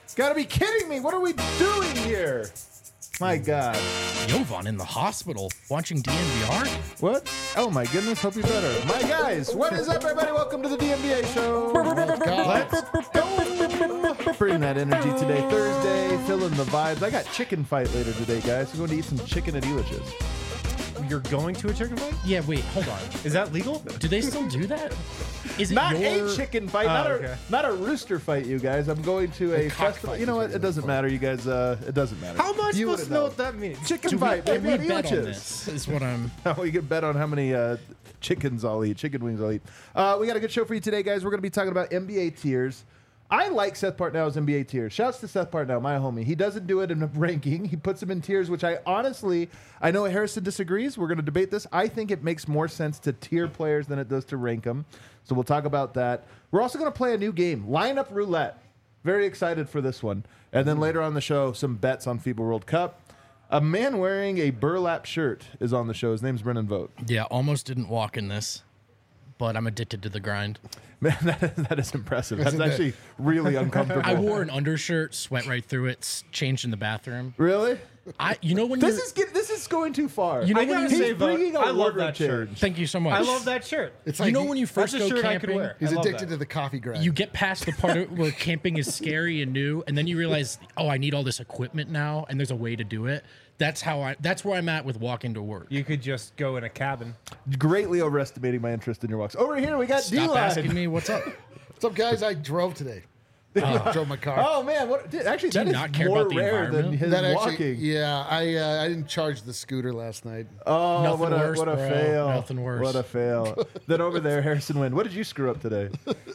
Gotta be kidding me. What are we doing here? My God. Jovan in the hospital watching DNVR? What? Oh, my goodness. Hope you're better. My guys, what is up, everybody? Welcome to the DNVA show. Let's go. Bring that energy today. Thursday, feeling the vibes. I got chicken fight later today, guys. We're going to eat some chicken at Elitch's. You're going to a chicken fight? Yeah, wait, hold on. Is that legal? Do they still do that? Is it Not your... a chicken fight, not a rooster fight, you guys. I'm going to a festival. You know what? It doesn't matter, you guys. It doesn't matter. How am I supposed to know what that means? Chicken fight, baby, we at bet on Elitch's. this, is what I'm... Oh, you can bet on how many chickens I'll eat, chicken wings I'll eat. We got a good show for you today, guys. We're going to be talking about NBA tiers. I like Seth Partnow's NBA tiers. Shouts to Seth Partnow, my homie. He doesn't do it in a ranking. He puts them in tiers, which I know Harrison disagrees. We're going to debate this. I think it makes more sense to tier players than it does to rank them. So we'll talk about that. We're also going to play a new game, Lineup Roulette. Very excited for this one. And then later on the show, some bets on FIBA World Cup. A man wearing a burlap shirt is on the show. His name's Brennan Vogt. Yeah, almost didn't walk in this, but I'm addicted to the grind. Man, that is impressive. That's actually really uncomfortable. I wore an undershirt, sweat right through it, changed in the bathroom. Really? You know when This is going too far. You know I when gotta you say, He's bringing a I love wardrobe that shirt. change. Thank you so much. I love that shirt. It's You like know when you first That's a go shirt I camping, could wear. he's I love addicted that. to the coffee grind. you get past the part where camping is scary and new, and then you realize, oh, I need all this equipment now, and there's a way to do it. That's where I'm at with walking to work. You could just go in a cabin. Greatly overestimating my interest in your walks. Over here, we got Stop asking D-Line. me what's up. What's up, guys? I drove today. Drove my car. Oh, man. Actually, Do you that is not care more about the rare than environment? his that actually, walking. yeah, I didn't charge the scooter last night. Oh, Nothing what a worse, bro. fail. Nothing worse. What a fail. Then over there, Harrison Wind. What did you screw up today?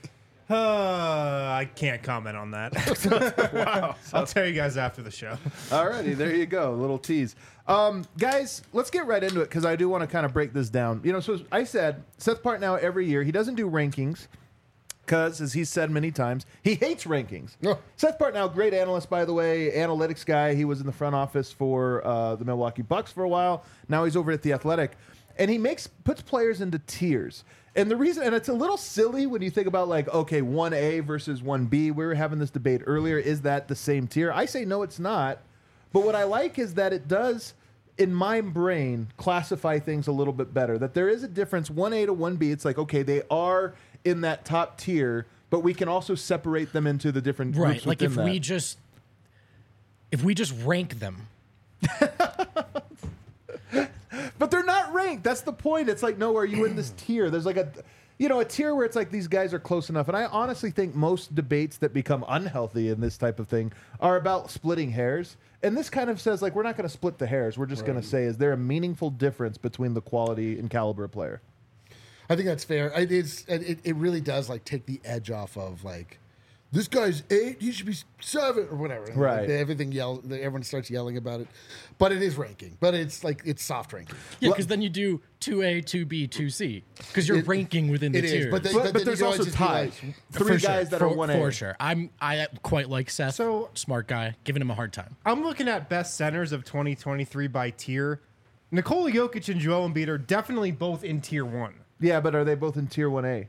I can't comment on that. Wow. I'll tell you guys after the show. Alrighty, there you go. A little tease. Guys, let's get right into it because I do want to kind of break this down. So I said Seth Partnow every year, he doesn't do rankings because, as he's said many times, he hates rankings. Oh. Seth Partnow, great analyst, by the way, analytics guy. He was in the front office for the Milwaukee Bucks for a while. Now he's over at The Athletic. And he puts players into tiers. And the reason, and it's a little silly when you think about like, okay, 1A versus 1B. We were having this debate earlier. Is that the same tier? I say no, it's not. But what I like is that it does, in my brain, classify things a little bit better. That there is a difference, 1A to 1B. It's like, okay, they are in that top tier, but we can also separate them into the different groups Right, like within if we just rank them. But they're not ranked. That's the point. It's like, no, are you in this tier? There's like a tier where it's like these guys are close enough. And I honestly think most debates that become unhealthy in this type of thing are about splitting hairs. And this kind of says, like, we're not going to split the hairs. We're just going to say, is there a meaningful difference between the quality and caliber of player? I think that's fair. It is. It really does like take the edge off of like, this guy's 8, he should be 7 or whatever. Right. Like, everyone starts yelling about it. But it is ranking. But it's like, it's soft ranking. Yeah, because then you do 2A, 2B, 2C. Because you're ranking within the It is, tiers. but But then there's you also always just be ties. like, Three guys that are 1A. For sure. I quite like Seth. So- smart guy. Giving him a hard time. I'm looking at best centers of 2023 by tier. Nikola Jokic and Joel Embiid are definitely both in tier 1. Yeah, but are they both in tier 1A?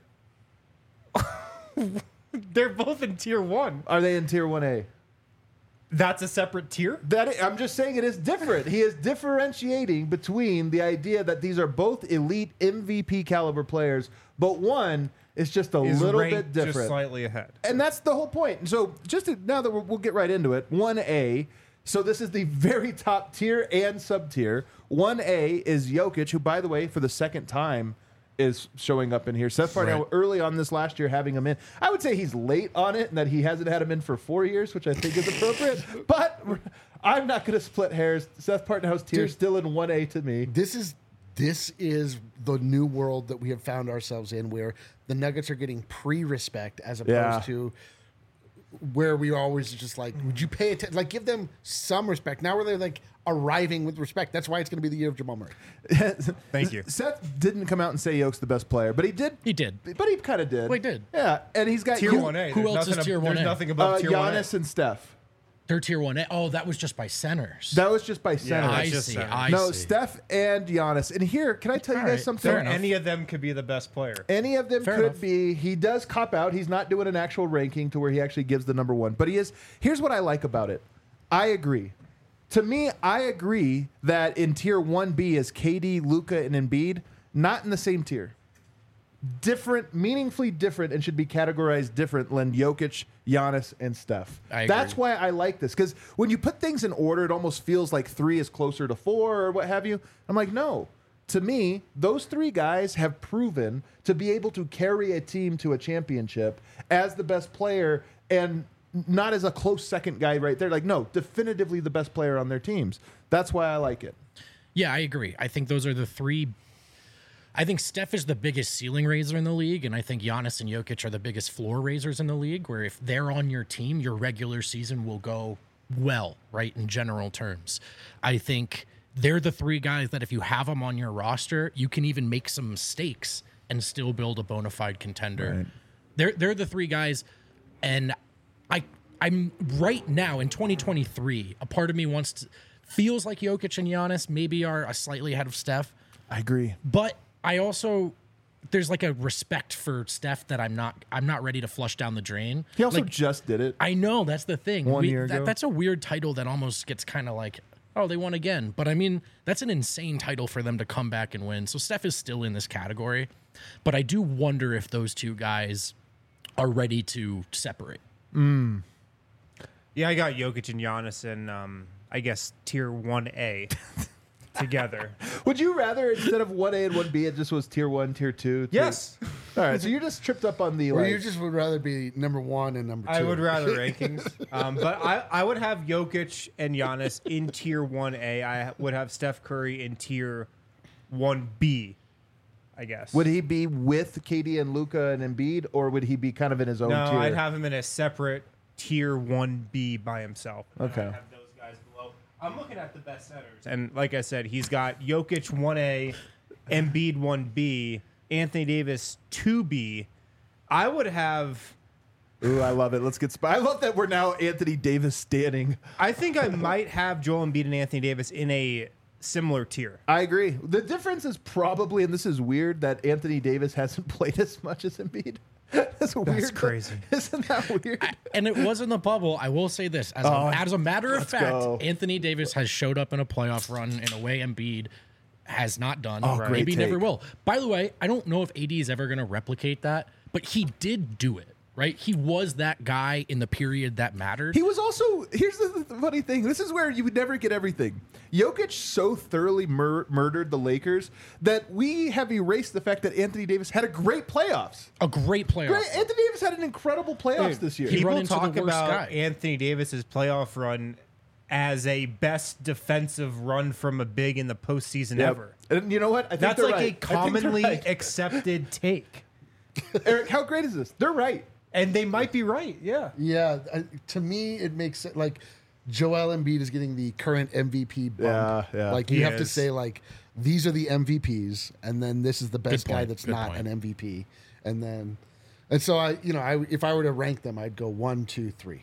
They're both in tier 1. Are they in tier 1A? That's a separate tier? I'm just saying it is different. He is differentiating between the idea that these are both elite MVP caliber players, but one is just a Is little ranked bit different. just slightly ahead. And that's the whole point. So now that we'll get right into it, 1A. So this is the very top tier and sub tier. 1A is Jokic, who, by the way, for the second time is showing up in here. Seth Partnow Right. early on this last year having him in. I would say he's late on it and that he hasn't had him in for 4 years, which I think is appropriate. But I'm not going to split hairs. Seth Partnow's tier is still in 1A to me. this is the new world that we have found ourselves in, where the Nuggets are getting pre-respect as opposed Yeah. to where we always just like, would you pay attention? Like, give them some respect. Now where they're like arriving with respect. That's why it's going to be the year of Jamal Murray. Thank you. Seth didn't come out and say Yoke's the best player, but he did. He did. But he kind of did. Well, he did. Yeah, and he's got Tier 1A. who else is tier There's 1A? nothing above tier 1A. Giannis and Steph. They're tier 1A. Oh, that was just by centers. That was just by center. I just see. centers. I No, see. Steph and Giannis. And here, can I tell you All guys right, something? fair enough. Any of them could be the best player. Any of them Fair could enough. be. He does cop out. He's not doing an actual ranking to where he actually gives the number one. But he is. Here's what I like about it. I agree. To me, I agree that in tier 1B is KD, Luka, and Embiid, not in the same tier. Different, meaningfully different, and should be categorized different than Jokic, Giannis, and Steph. I agree. That's why I like this, because when you put things in order, it almost feels like 3 is closer to 4 or what have you. I'm like, no. To me, those 3 guys have proven to be able to carry a team to a championship as the best player and not as a close second guy right there. Like, no, definitively the best player on their teams. That's why I like it. Yeah, I agree. I think those are the 3. I think Steph is the biggest ceiling raiser in the league, and I think Giannis and Jokic are the biggest floor raisers in the league, where if they're on your team, your regular season will go well, right, in general terms. I think they're the 3 guys that if you have them on your roster, you can even make some mistakes and still build a bona fide contender. Right. They're the 3 guys, and I'm right now in 2023, a part of me feels like Jokic and Giannis maybe are slightly ahead of Steph. I agree. But I also there's like a respect for Steph that I'm not ready to flush down the drain. He also Like, just did it. I know that's the thing. 1 year ago. That's a weird title that almost gets kind of like, oh, they won again. But I mean, that's an insane title for them to come back and win. So Steph is still in this category, but I do wonder if those 2 guys are ready to separate. Yeah, I got Jokic and Giannis in, I guess, tier 1A together. Would you rather instead of 1A and 1B, it just was tier 1, tier 2? Yes. All right, so you're just tripped up on the Or like, you just would rather be number 1 and number 2. I would rather rankings. But I would have Jokic and Giannis in tier 1A. I would have Steph Curry in tier 1B, I guess. Would he be with KD and Luka and Embiid, or would he be kind of in his own No, tier? I'd have him in a separate tier 1B by himself. And Okay. I'd have those guys below. I'm looking at the best centers. And like I said, he's got Jokic 1A, Embiid 1B, Anthony Davis 2B. I would have... Ooh, I love it. Let's get. I love that we're now Anthony Davis standing. I think I might have Joel Embiid and Anthony Davis in a similar tier. I agree. The difference is probably, and this is weird, that Anthony Davis hasn't played as much as Embiid. That's weird. crazy. Isn't that weird? And it was in the bubble. I will say this. As a matter of fact, go. Anthony Davis has showed up in a playoff run in a way Embiid has not done. Great Maybe never take. will. By the way, I don't know if AD is ever going to replicate that, but he did do it, right? He was that guy in the period that mattered. He was also, here's the funny thing. This is where you would never get everything. Jokic so thoroughly murdered the Lakers that we have erased the fact that Anthony Davis had a great playoffs. a great playoff. Great. Anthony Davis had an incredible playoffs this year. he run People into the talk worst about guy. Anthony Davis's playoff run as a best defensive run from a big in the postseason Yep. ever. And you know what? I think That's they're like right. a I think they're commonly right. accepted take. Eric, how great is this? They're right. And they might be right, yeah. Yeah, to me, it makes it like Joel Embiid is getting the current MVP bump. Yeah. Like He you have to is. say like these are the MVPs, and then this is the best guy point, that's good not point. an MVP, and so if I were to rank them, I'd go 1, 2, 3.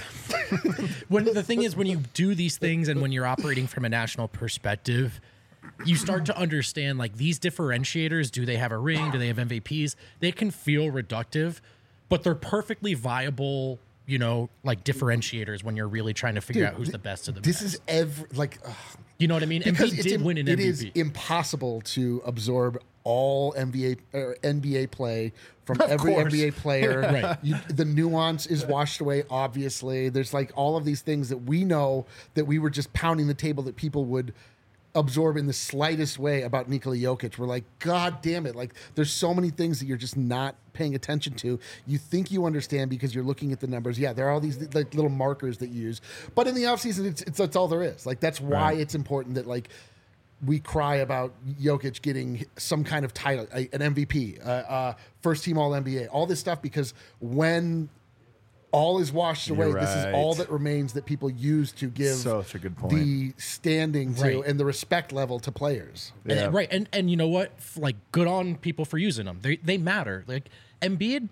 When the thing is, when you do these things and when you're operating from a national perspective, you start to understand like these differentiators. Do they have a ring? Do they have MVPs? They can feel reductive, but they're perfectly viable, like differentiators when you're really trying to figure out who's the best of the This best. is You know what I mean? because Embiid did win an it MVP. is impossible to absorb all NBA play from every course. NBA player. Right. The nuance is washed away. Obviously, there's like all of these things that we know that we were just pounding the table that people would absorb in the slightest way about Nikola Jokic. We're like, God damn it! Like, there's so many things that you're just not paying attention to. You think you understand because you're looking at the numbers. Yeah, there are all these like little markers that you use, but in the offseason, it's that's all there is. Like, that's why it's important that like we cry about Jokic getting some kind of title, an MVP, first team All NBA, all this stuff, because when all is washed away, You're this is right. all that remains that people use to give Such a good point. the standing to Right. and the respect level to players. Yeah. Right. And you know what? Like, good on people for using them. They matter. Like, Embiid,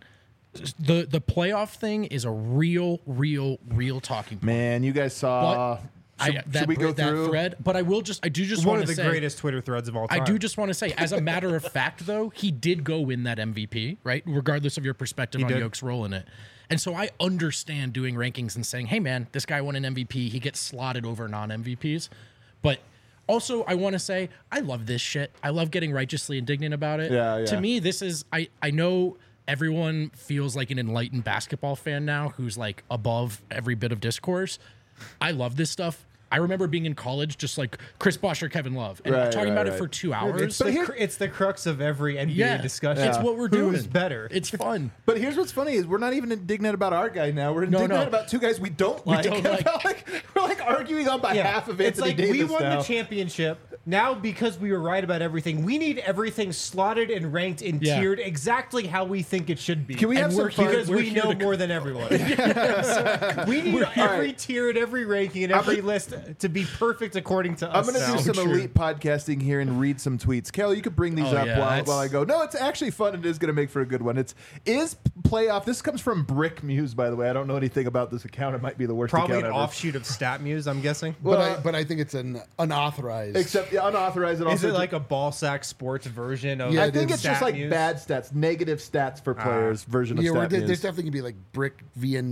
The playoff thing is a real talking point. Man, you guys saw. Should we go that through thread? But I do just One want of to the say, greatest Twitter threads of all time. I do just want to say, as a matter of fact, though, he did go win that MVP, right? Regardless of your perspective on Yoke's role in it. And so I understand doing rankings and saying, hey, man, this guy won an MVP. He gets slotted over non-MVPs. But also, I want to say, I love this shit. I love getting righteously indignant about it. Yeah. To me, this is, I know everyone feels like an enlightened basketball fan now who's like above every bit of discourse. I love this stuff. I remember being in college, just like Chris Bosh or Kevin Love, and talking about it for 2 hours. It's the crux of every NBA discussion. It's what we're doing. Who's better? It's fun. But here's what's funny is we're not even indignant about our guy now. We're indignant about two guys we don't like. We're like arguing on behalf of Anthony Davis. We won now. the championship. Now, because we were right about everything, we need everything slotted and ranked and tiered exactly how we think it should be. Can we have some fun? Because we know more than everyone. So we need every tier and every ranking and every list to be perfect according to us. I'm going to do some elite podcasting here and read some tweets. Kel, you could bring these up while I go. No, it's actually fun. It is going to make for a good one. Is playoff. This comes from Brick Muse, by the way. I don't know anything about this account. It might be the worst Probably account an ever. offshoot of StatMuse, I'm guessing. But I think it's an unauthorized. Except unauthorized. Is it like a ball sack sports version of? I think it's just like StatMuse? bad stats, negative stats for players version of Yeah, StatMuse. there's definitely gonna be like Brick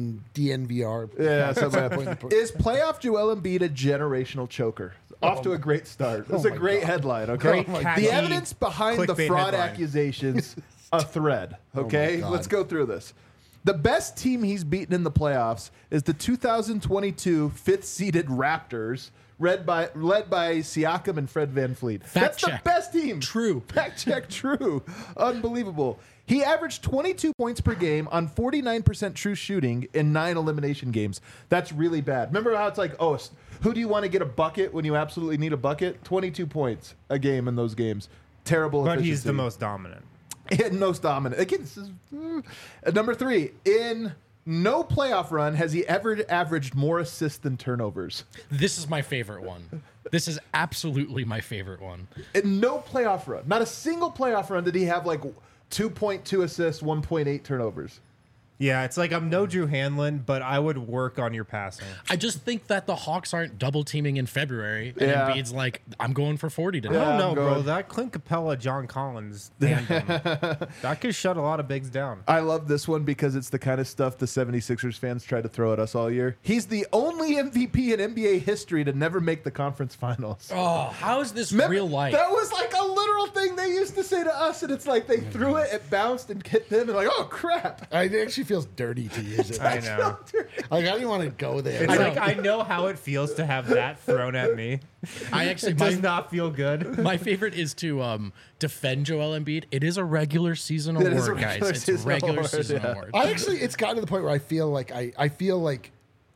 DNVR. Yeah, something like that. Is playoff Joel Embiid a generational choker? Off to a great start. That's a great headline, okay? Great catchy The evidence behind the clickbait fraud headline. accusations, a thread, okay? God. Let's go through this. The best team he's beaten in the playoffs is the 2022 fifth-seeded Raptors, led by Siakam and Fred VanVleet. That's check. the best team. True. Fact check, true. Unbelievable. He averaged 22 points per game on 49% true shooting in 9 elimination games. That's really bad. Remember how it's like, who do you want to get a bucket when you absolutely need a bucket? 22 points a game in those games. Terrible But efficiency. he's the most dominant. Most dominant. Again, this is number 3. In no playoff run has he ever averaged more assists than turnovers. This is my favorite one. This is absolutely my favorite one. In no playoff run, not a single playoff run did he have like 2.2 assists, 1.8 turnovers. Yeah, it's like I'm no Drew Hanlon, but I would work on your passing. I just think that the Hawks aren't double teaming in February. And Yeah. Embiid's like, I'm going for 40 tonight. I don't I'm know, bro. going- That Clint Capella, John Collins tandem, that could shut a lot of bigs down. I love this one because it's the kind of stuff the 76ers fans tried to throw at us all year. He's the only MVP in NBA history to never make the conference finals. Oh, how is this Remember, real life? That was like a literal thing they used to say to us, and it's like they threw it bounced and hit them, and like, oh crap. It actually feels dirty to use it. I know. Like I didn't want to go there. It's like I know how it feels to have that thrown at me. I actually It does not feel good. my favorite is to defend Joel Embiid. It is a regular season It is a award, regular guys. It's a season regular award, season yeah. award. It's gotten to the point where I feel like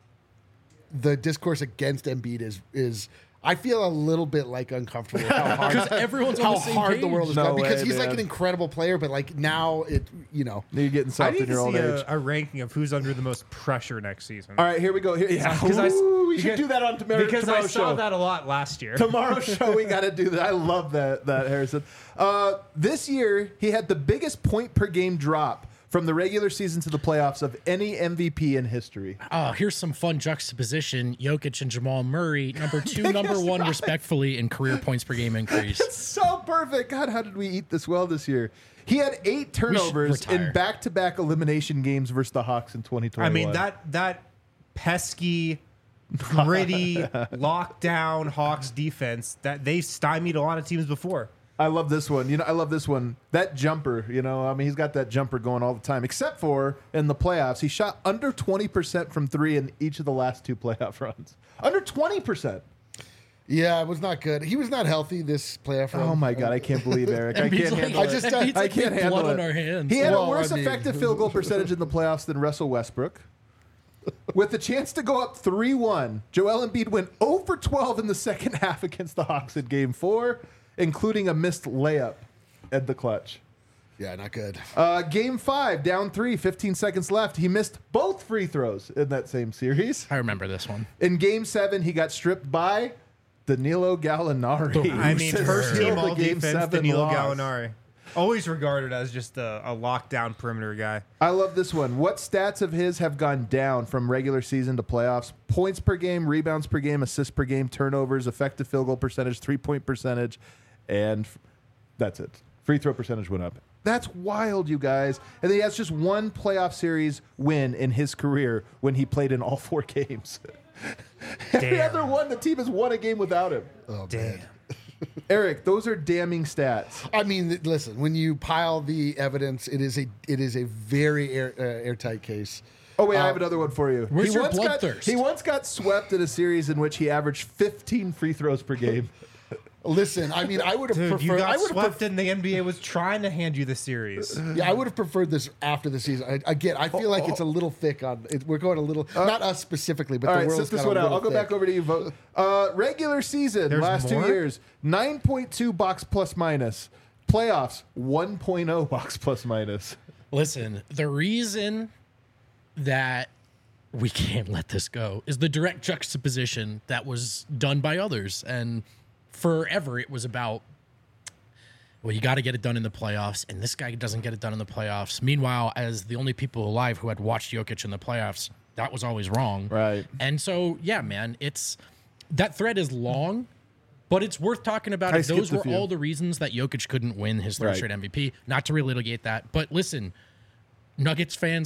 the discourse against Embiid is I feel a little bit like uncomfortable with how hard Because everyone's on how the same hard page. the world is No going because way, he's like man. an incredible player, but like now You're getting I soft need in your to old see age. a ranking of wwho's under the most pressure next season. All right, here we go. We should do that on tomorrow's Because I show. saw that a lot last year. Tomorrow's show, we got to do that. I love that, Harrison. This year, he had the biggest point per game drop from the regular season to the playoffs of any MVP in history. Here's some fun juxtaposition. Jokic and Jamal Murray, number 2, number 1, respectfully, in career points per game increase. So perfect. God, how did we eat this well this year? He had 8 turnovers in retire. back-to-back elimination games versus the Hawks in 2021. I mean that pesky, gritty, lockdown Hawks defense that they stymied a lot of teams before. I love this one. I love this one. That jumper, he's got that jumper going all the time, except for in the playoffs. He shot under 20% from 3 in each of the last 2 playoff runs. Under 20%. Yeah, it was not good. He was not healthy this playoff run. Oh my God, I can't believe Eric. I Embiid's can't like- handle it. Embiid's I like, can't "We have handle blood it. on our hands." He had Well, a worse I mean- effective field goal percentage in the playoffs than Russell Westbrook. With the chance to go up 3-1, Joel Embiid went 0 for 12 in the second half against the Hawks in Game 4, including a missed layup at the clutch. Yeah, not good. Game 5, down 3, 15 seconds left. He missed both free throws in that same series. I remember this one. In Game 7, he got stripped by Danilo Gallinari. I mean, who first sealed team the all Game defense, 7 Danilo loss. Gallinari. Always regarded as just a lockdown perimeter guy. I love this one. What stats of his have gone down from regular season to playoffs? Points per game, rebounds per game, assists per game, turnovers, effective field goal percentage, 3-point percentage, and that's it. Free throw percentage went up. That's wild, you guys. And then he has just one playoff series win in his career when he played in all 4 games. Every other one, the team has won a game without him. Oh, Damn. man. Eric, those are damning stats. I mean, listen, when you pile the evidence, it is a very airtight case. Oh, wait, I have another one for you. Where's your bloodthirst? He once got swept in a series in which he averaged 15 free throws per game. Listen, I mean, I would have Dude, preferred. you I got would have swept and the NBA was trying to hand you the series. Yeah, I would have preferred this after the season. Again, I feel like it's a little thick on. We're going a little, not us specifically, but All the right, world's sit this got a one out. little I'll go thick. back over to you. Vote. Regular season, There's last more? 2 years, 9.2 box plus minus. Playoffs, 1.0 box plus minus. Listen, the reason that we can't let this go is the direct juxtaposition that was done by others. And forever it was about, well, you got to get it done in the playoffs, and this guy doesn't get it done in the playoffs. Meanwhile, as the only people alive who had watched Jokic in the playoffs, that was always wrong. Right. And so, yeah, man, that thread is long, but it's worth talking about. I If those skipped a were few. all the reasons that Jokic couldn't win his third Right. straight MVP. Not to relitigate that, but listen, Nuggets fans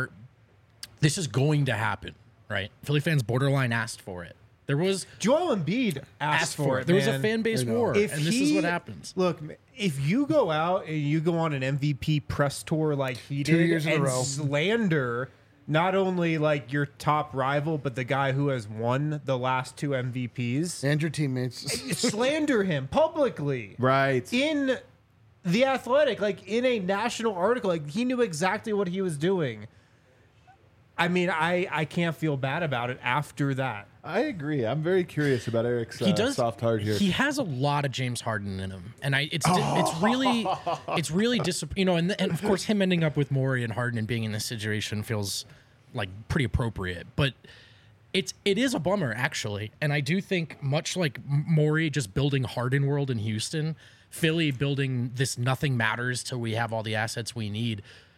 this is going to happen, right? Philly fans borderline asked for it. There was Joel Embiid asked for it. There was a man. fan base war, and this is what happens. Look, if you go out and you go on an MVP press tour like he 2 did years in a and row. slander not only like your top rival, but the guy who has won the last 2 MVPs, And your teammates. slander him publicly. Right. In The Athletic, like in a national article, like he knew exactly what he was doing. I mean, I can't feel bad about it after that. I agree. I'm very curious about Eric's He does soft heart here. He has a lot of James Harden in him, and it's really and of course him ending up with Morey and Harden and being in this situation feels like pretty appropriate, but it is a bummer actually, and I do think much like Morey just building Harden World in Houston, Philly building this nothing matters till we have all the assets we need.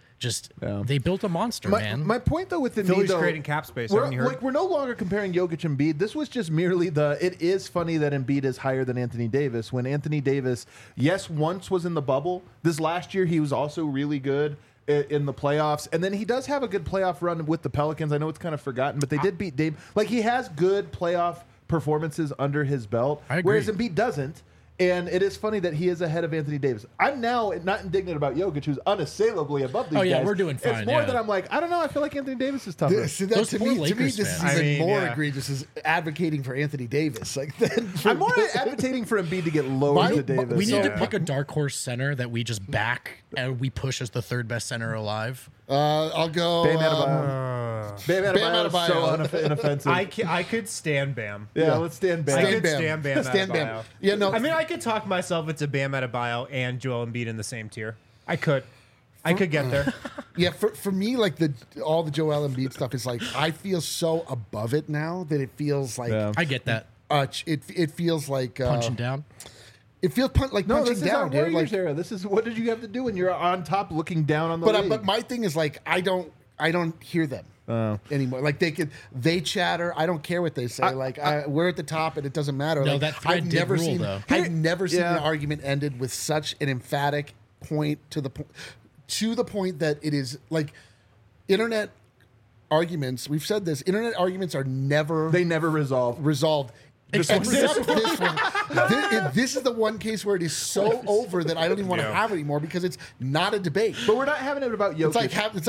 They built a monster, man. My point though with Embiid, Philly's though, creating cap space, We're, haven't you heard? like, we're no longer comparing Jokic and Embiid. This was just merely it is funny that Embiid is higher than Anthony Davis when Anthony Davis, yes, once was in the bubble. This last year he was also really good in the playoffs, and then he does have a good playoff run with the Pelicans. I know it's kind of forgotten, but they did beat Dame. Like he has good playoff performances under his belt, I agree. whereas Embiid doesn't. And it is funny that he is ahead of Anthony Davis. I'm now not indignant about Jokic, who's unassailably above these Oh, yeah, guys. we're doing fine, It's more yeah. that I'm like, I don't know. I feel like Anthony Davis is tougher. See, that, Those to poor me, Lakers this is fans. even I mean, more yeah. egregious as advocating for Anthony Davis. Like then for, I'm more advocating for Embiid to get lower to Davis. We need to Yeah. pick a dark horse center that we just back and we push as the third best center alive. I'll go. Bam Adebayo. Bam Adebayo is so Adebayo. inoffensive. I could stand Bam. yeah, let's stand back. I Stand could Bam. stand Bam. Stand Bam. Adebayo. Yeah, no. I mean, I could talk myself into Bam Adebayo and Joel Embiid in the same tier. I could get there. Yeah, for me, like all the Joel Embiid stuff is like I feel so above it now that it feels like Yeah. I get that. it feels like Punching down. It feels like No, punching this is down, our dude. Warriors Like, era. This is what did you have to do when you're on top, looking down on the league? but my thing is like I don't hear them anymore. Like they chatter. I don't care what they say. We're at the top and it doesn't matter. No, like, that thread I've did never rule, seen. though. I've never seen Yeah. an argument ended with such an emphatic point to the point that it is like internet arguments. We've said this. Internet arguments are never they never resolve. resolved. Except for this one. This is the one case where it is so over that I don't even want to have it anymore because it's not a debate. But we're not having it about Jokic.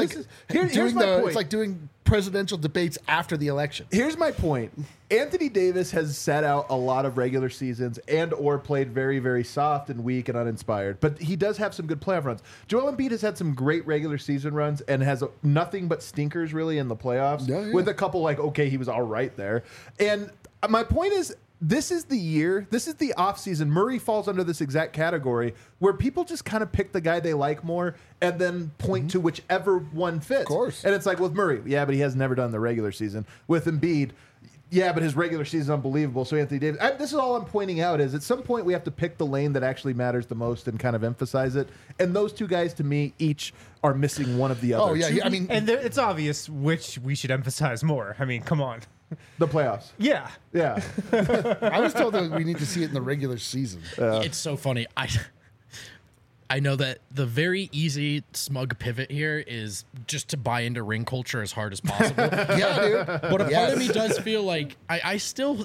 Here's my point. It's like doing presidential debates after the election. Here's my point. Anthony Davis has sat out a lot of regular seasons and or played very, very soft and weak and uninspired. But he does have some good playoff runs. Joel Embiid has had some great regular season runs and has nothing but stinkers really in the playoffs. Yeah. With a couple like, okay, he was all right there. And my point is, this is the year, this is the offseason. Murray falls under this exact category where people just kind of pick the guy they like more and then point to whichever one fits. Of course. And it's like with Murray, yeah, but he has never done the regular season. With Embiid, Yeah, but his regular season is unbelievable. So Anthony Davis, this is all I'm pointing out is at some point we have to pick the lane that actually matters the most and kind of emphasize it. And those two guys, to me, each are missing one of the other. Oh yeah, I mean, And it's obvious which we should emphasize more. I mean, come on. The playoffs. Yeah. Yeah. I was told that we need to see it in the regular season. It's so funny. I know that the very easy smug pivot here is just to buy into ring culture as hard as possible. Yeah, dude. But a part of me does feel like I still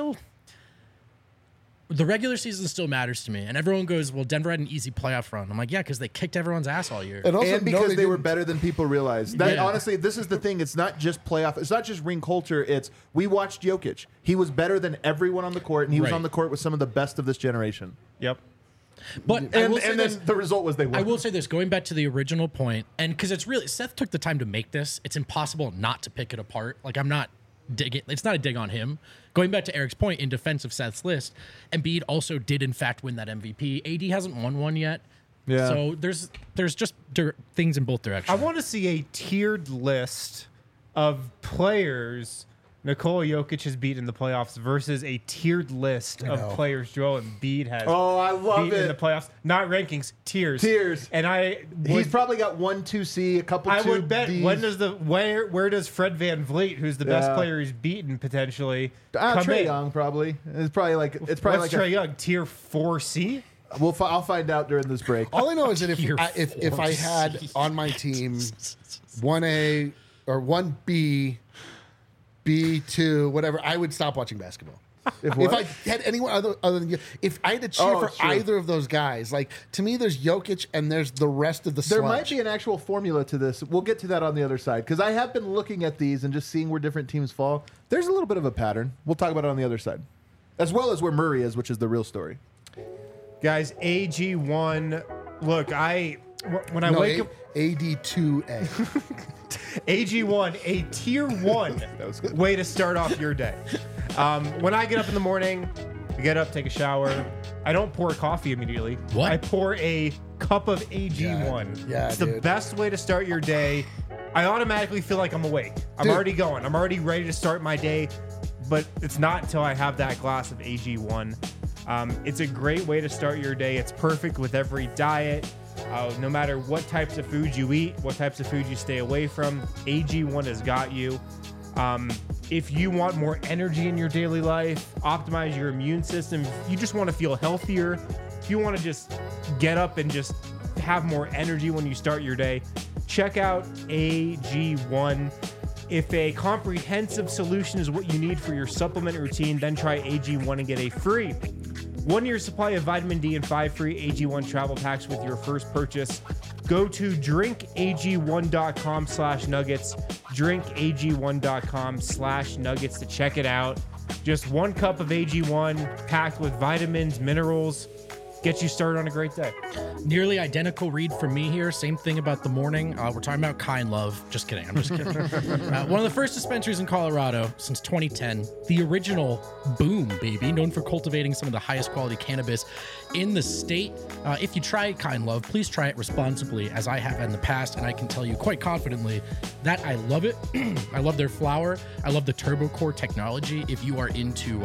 the regular season still matters to me. And everyone goes, well, Denver had an easy playoff run. I'm like, yeah, because they kicked everyone's ass all year. And also, And because they were didn't- better than people realized. That, Yeah. honestly, this is the thing. It's not just playoff. It's not just ring culture. It's we watched Jokic. He was better than everyone on the court, and he was Right. on the court with some of the best of this generation. Yep. But I And, will say and this, then the result was they won. I will say this, going back to the original point, and because it's really, Seth took the time to make this, it's impossible not to pick it apart. Like, I'm not digging, it's not a dig on him. Going back to Eric's point, in defense of Seth's list, Embiid also did, in fact, win that MVP. AD hasn't won one yet. Yeah. So there's just things in both directions. I want to see a tiered list of players Nikola Jokic has beat in the playoffs versus a tiered list of know. players Joel Embiid has Oh, I love beat in the it. playoffs. Not rankings, tiers. Tiers. And I He's would, probably got 1, 2C, a couple I 2 would bet Ds. when does where does Fred Van Vliet, who's the best Yeah. player he's beaten potentially, come Trae in? Young probably. It's probably like What's like Trae Young? Tier 4C? I'll find out during this break. All I know is that Tier if I had 4C. on my team 1A or 1B, B2, whatever, I would stop watching basketball. If If what? I had anyone other than you, if I had to cheer Oh, for sure. either of those guys, like to me, there's Jokic and there's the rest of the There sludge. might be an actual formula to this. We'll get to that on the other side because I have been looking at these and just seeing where different teams fall. There's a little bit of a pattern. We'll talk about it on the other side, as well as where Murray is, which is the real story. Guys, AG1. Look, when I no, wake up, AD2A. AG1, a tier 1 was good. way to start off your day. When I get up in the morning, I get up, take a shower. I don't pour coffee immediately. What? I pour a cup of AG1. Yeah, it's the dude. best way to start your day. I automatically feel like I'm awake. I'm Dude. already going. I'm already ready to start my day. But it's not until I have that glass of AG1. It's a great way to start your day. It's perfect with every diet. No matter what types of food you eat, what types of food you stay away from, AG1 has got you. If you want more energy in your daily life, optimize your immune system, if you just want to feel healthier, if you want to just get up and just have more energy when you start your day, check out AG1. If a comprehensive solution is what you need for your supplement routine, then try AG1 and get a free 1-year supply of vitamin D and 5 free AG1 travel packs with your first purchase. Go to drinkag1.com/nuggets, drinkag1.com/nuggets to check it out. Just 1 cup of AG1 packed with vitamins, minerals, get you started on a great day. Nearly identical read from me here. Same thing about the morning. We're talking about Kind Love. Just kidding. I'm just kidding. One of the first dispensaries in Colorado since 2010. The original Boom, baby. Known for cultivating some of the highest quality cannabis in the state. If you try Kind Love, please try it responsibly, as I have in the past. And I can tell you quite confidently that I love it. I love their flower. I love the Turbo Core technology. If you are into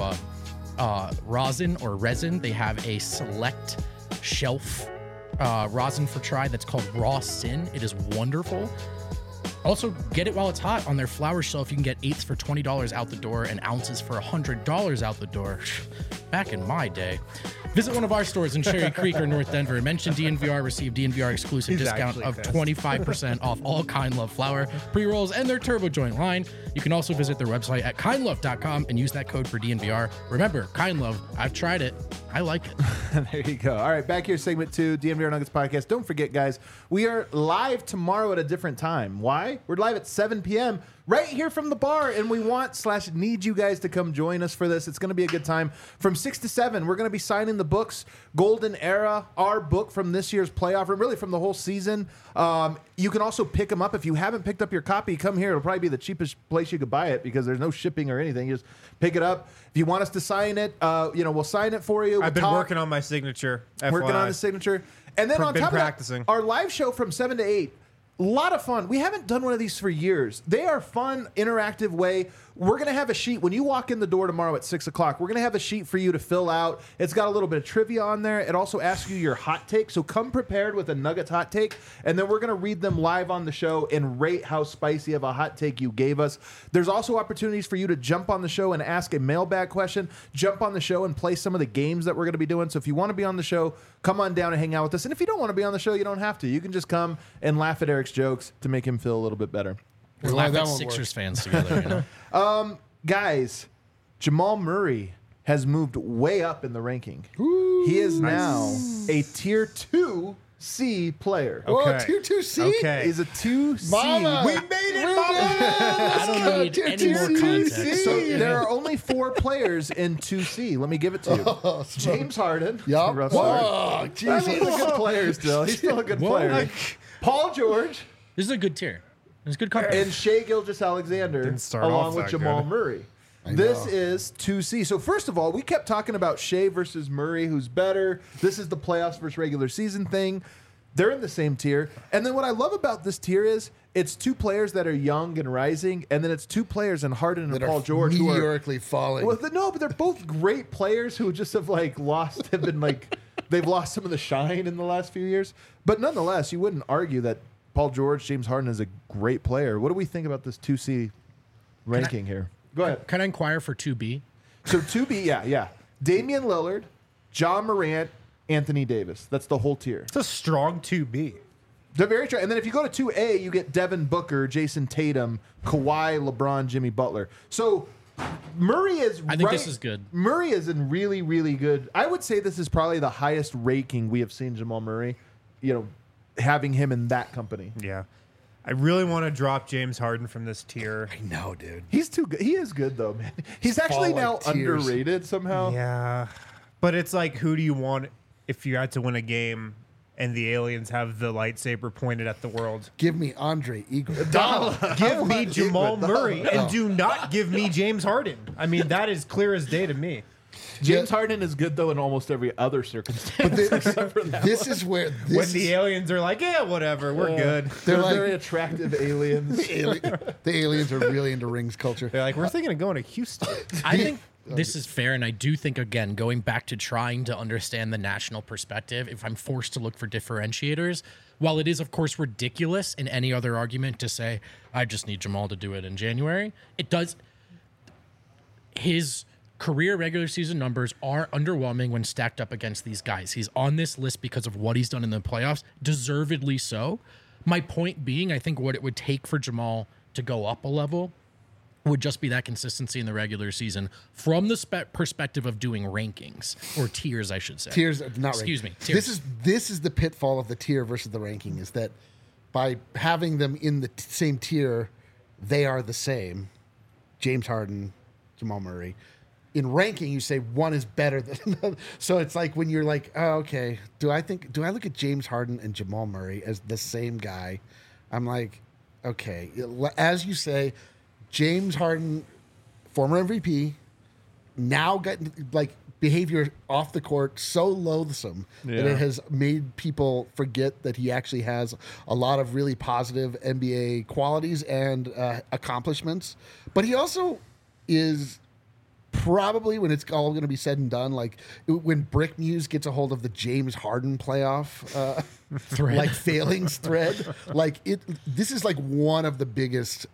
rosin or resin, they have a select shelf rosin for try that's called Raw Sin. It is wonderful. Also, get it while it's hot. On their flower shelf, you can get eighths for $20 out the door and ounces for $100 out the door. Back in my day. Visit one of our stores in Cherry Creek or North Denver. Mention DNVR, receive DNVR exclusive He's discount actually of pissed. 25% off all Kind Love flower, pre-rolls, and their Turbo Joint line. You can also visit their website at kindlove.com and use that code for DNVR. Remember, Kind Love, I've tried it. I like it. There you go. All right, back here, segment 2, DNVR Nuggets podcast. Don't forget, guys, we are live tomorrow at a different time. Why? We're live at 7 p.m. right here from the bar, and we want/need you guys to come join us for this. It's going to be a good time. From 6 to 7, we're going to be signing the books, Golden Era, our book from this year's playoff, or really from the whole season. You can also pick them up. If you haven't picked up your copy, come here. It'll probably be the cheapest place you could buy it because there's no shipping or anything. You just pick it up. If you want us to sign it, we'll sign it for you. I've been We'll talk. working on my signature. Working FYI. on the signature. And then on Been top practicing. of that, our live show from 7 to 8, a lot of fun. We haven't done one of these for years. They are fun, interactive way. we're going to have a sheet. When you walk in the door tomorrow at 6 o'clock, we're going to have a sheet for you to fill out. It's got a little bit of trivia on there. It also asks you your hot take. So come prepared with a Nuggets hot take, and then we're going to read them live on the show and rate how spicy of a hot take you gave us. There's also opportunities for you to jump on the show and ask a mailbag question, jump on the show and play some of the games that we're going to be doing. So if you want to be on the show, come on down and hang out with us. And if you don't want to be on the show, you don't have to. You can just come and laugh at Eric's jokes to make him feel a little bit better. We're Well, laugh that at won't Sixers work. fans together, you know? Guys, Jamal Murray has moved way up in the ranking. He is now a tier 2C player. Whoa, Okay. tier 2C? Okay. He's a 2C. Mama. We made it, Mama! I don't need Tier any more 2C. context. So there are only 4 players in 2C. Let me give it to you. James Harden. Yup. Rough start. Whoa, I Jesus. mean, he's a good player still. He's still a good player. Paul George This is a good tier. It's good company. and Shea Gilgeous-Alexander Didn't start along off with that Jamal good. Murray. I This know. is 2C. So first of all, we kept talking about Shea versus Murray, who's better. This is the playoffs versus regular season thing. They're in the same tier. And then what I love about this tier is it's 2 players that are young and rising, and then it's 2 players in Harden and That Paul are George who are meteorically falling. well, no, but they're both great players who just have been they've lost some of the shine in the last few years. But nonetheless, you wouldn't argue that Paul George, James Harden is a great player. What do we think about this 2C ranking here? Go ahead. Can I inquire for 2B? So 2B, yeah. Damian Lillard, John Morant, Anthony Davis. That's the whole tier. It's a strong 2B. They're very true. And then if you go to 2A, you get Devin Booker, Jason Tatum, Kawhi, LeBron, Jimmy Butler. So Murray is I think this is good. Murray is in really, really good. I would say this is probably the highest ranking we have seen Jamal Murray, having him in that company. Yeah. I really want to drop James Harden from this tier. no, dude. He's too good. He is good, though, man. He's actually fall now like tears. underrated somehow. Yeah. But it's like, who do you want if you had to win a game and the aliens have the lightsaber pointed at the world? Give me Andre Iguodala. Give me Jamal Iguodala. Murray and do not give me James Harden. I mean, that is clear as day to me. James Harden is good, though, in almost every other circumstance. This is where When the aliens are like, yeah, whatever, we're good. They're like- very attractive aliens. the aliens are really into rings culture. They're like, we're thinking of going to Houston. I think this is fair, and I do think, again, going back to trying to understand the national perspective, if I'm forced to look for differentiators, while it is, of course, ridiculous in any other argument to say, I just need Jamal to do it in January, it does. His career regular season numbers are underwhelming when stacked up against these guys. He's on this list because of what he's done in the playoffs, deservedly so. My point being, I think what it would take for Jamal to go up a level would just be that consistency in the regular season from the perspective of doing rankings or tiers, I should say. Tiers, not Excuse ranking. me, tiers. This is the pitfall of the tier versus the ranking is that by having them in the same tier, they are the same. James Harden, Jamal Murray. In ranking, you say one is better than another. So it's like when you're like, oh, okay, do I look at James Harden and Jamal Murray as the same guy? I'm like, okay. As you say, James Harden, former MVP, now got behavior off the court so loathsome that it has made people forget that he actually has a lot of really positive NBA qualities and accomplishments. But he also is probably, when it's all going to be said and done, like when Brick Muse gets a hold of the James Harden playoff Thread. failings thread, this is like one of the biggest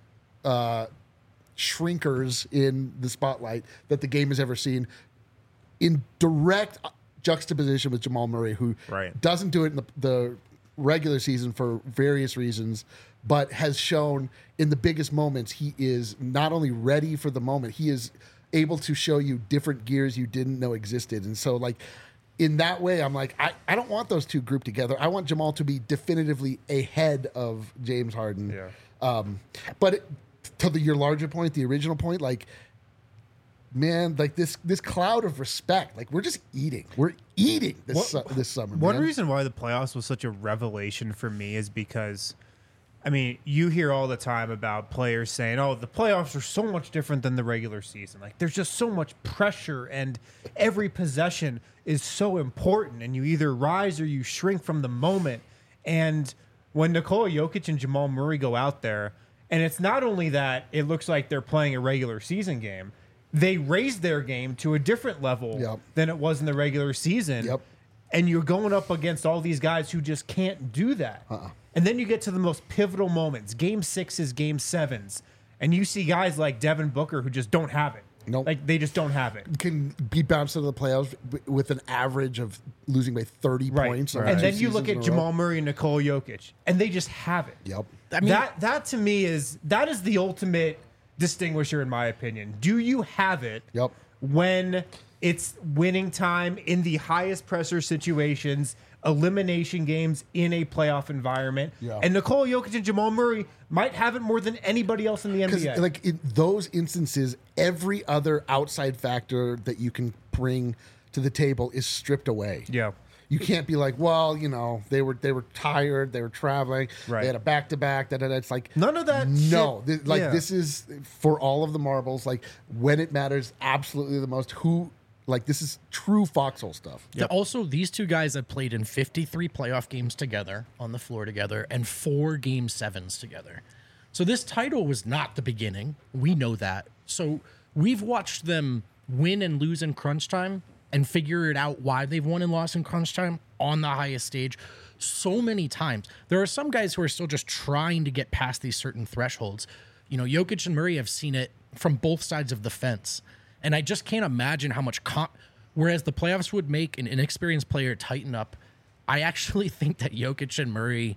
shrinkers in the spotlight that the game has ever seen, in direct juxtaposition with Jamal Murray, who Right. doesn't do it in the regular season for various reasons, but has shown in the biggest moments he is not only ready for the moment, he is able to show you different gears you didn't know existed. And so, in that way, I'm like, I don't want those two grouped together. I want Jamal to be definitively ahead of James Harden. Yeah. But your larger point, the original point, man, this cloud of respect, we're just eating. We're eating this summer. One man. reason why the playoffs was such a revelation for me is because, you hear all the time about players saying, oh, the playoffs are so much different than the regular season. There's just so much pressure and every possession is so important and you either rise or you shrink from the moment. And when Nikola Jokic and Jamal Murray go out there And it's not only that it looks like they're playing a regular season game, they raised their game to a different level Yep. than it was in the regular season. Yep. And you're going up against all these guys who just can't do that. And then you get to the most pivotal moments, game 6s, game 7s, and you see guys like Devin Booker who just don't have it. Nope. Like they just don't have it. Can be bounced into the playoffs with an average of losing by 30 points. over And two then you look seasons in at a row. Jamal Murray and Nikola Jokic, and they just have it. Yep. I mean, that to me is the ultimate distinguisher in my opinion. Do you have it Yep. when it's winning time in the highest pressure situations, elimination games in a playoff environment? Yeah. And Nikola Jokic and Jamal Murray might have it more than anybody else in the Because NBA. like in those instances, every other outside factor that you can bring to the table is stripped away. yeah. You can't be like, well, they were tired, they were traveling, Right. they had a back to back. It's like None of that No, shit. Yeah. this is for all of the marbles. Like when it matters, absolutely the most. This is true foxhole stuff. Also, these two guys have played in 53 playoff games together on the floor together and 4 game 7s together. So this title was not the beginning. We know that. So we've watched them win and lose in crunch time and figure it out why they've won and lost in crunch time on the highest stage so many times. There are some guys who are still just trying to get past these certain thresholds. Jokic and Murray have seen it from both sides of the fence. And I just can't imagine how much whereas the playoffs would make an inexperienced player tighten up, I actually think that Jokic and Murray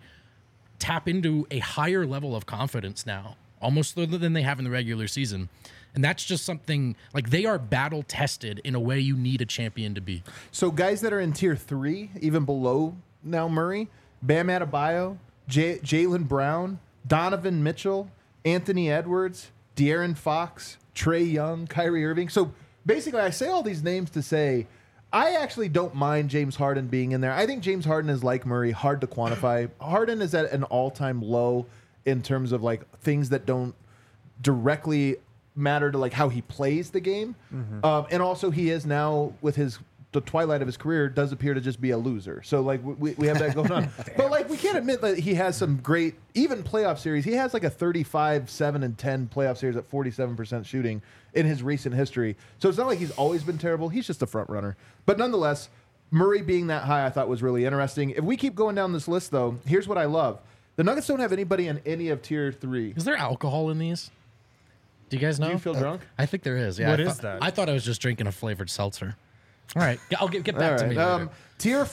tap into a higher level of confidence now, almost than they have in the regular season. And that's just something like they are battle tested in a way you need a champion to be. So guys that are in tier 3, even below now Murray, Bam Adebayo, Jaylen Brown, Donovan Mitchell, Anthony Edwards, De'Aaron Fox, Trae Young, Kyrie Irving. So basically I say all these names to say I actually don't mind James Harden being in there. I think James Harden is like Murray, hard to quantify. Harden is at an all-time low in terms of like things that don't directly matter to like how he plays the game. And also he is now with the twilight of his career does appear to just be a loser. So like we have that going on. But like we can't admit that he has some great even playoff series. He has like a 35-7-10 playoff series at 47% shooting in his recent history. So it's not like he's always been terrible. He's just a front runner. But nonetheless, Murray being that high I thought was really interesting. If we keep going down this list though, here's what I love. The Nuggets don't have anybody in any of tier 3. Is there alcohol in these? Do you guys know? Do you feel drunk? I think there is. Yeah. What I is thought- that? I thought I was just drinking a flavored seltzer. All right. I'll get back All to me right. later. Tier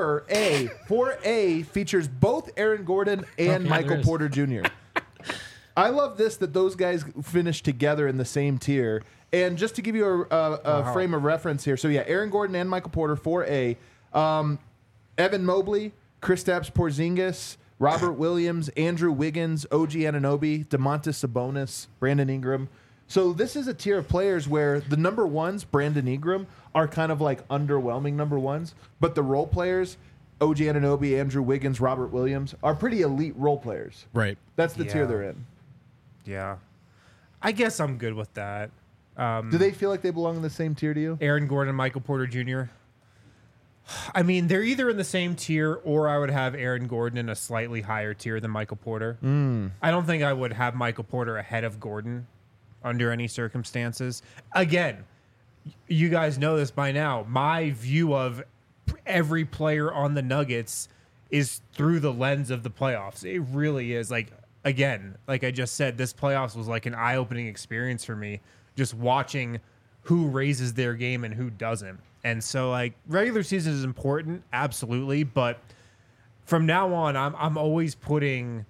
4A. 4A features both Aaron Gordon and yeah, Michael there is. Porter Jr. I love this that those guys finished together in the same tier. And just to give you a frame of reference here. So, yeah, Aaron Gordon and Michael Porter, 4A. Evan Mobley, Kristaps Porzingis, Robert Williams, Andrew Wiggins, OG Anunoby, DeMontis Sabonis, Brandon Ingram. So this is a tier of players where the number ones, Brandon Ingram, are kind of like underwhelming number ones, but the role players, OG Anunoby, Andrew Wiggins, Robert Williams, are pretty elite role players. Right. That's the tier Yeah. they're in. Yeah. I guess I'm good with that. Do they feel like they belong in the same tier to you? Aaron Gordon, Michael Porter Jr. I mean, they're either in the same tier or I would have Aaron Gordon in a slightly higher tier than Michael Porter. I don't think I would have Michael Porter ahead of Gordon under any circumstances. Again, you guys know this by now. My view of every player on the Nuggets is through the lens of the playoffs. It really is. Like, again, like I just said, this playoffs was like an eye-opening experience for me, just watching who raises their game and who doesn't. And so, like, regular season is important, absolutely, but from now on, I'm always putting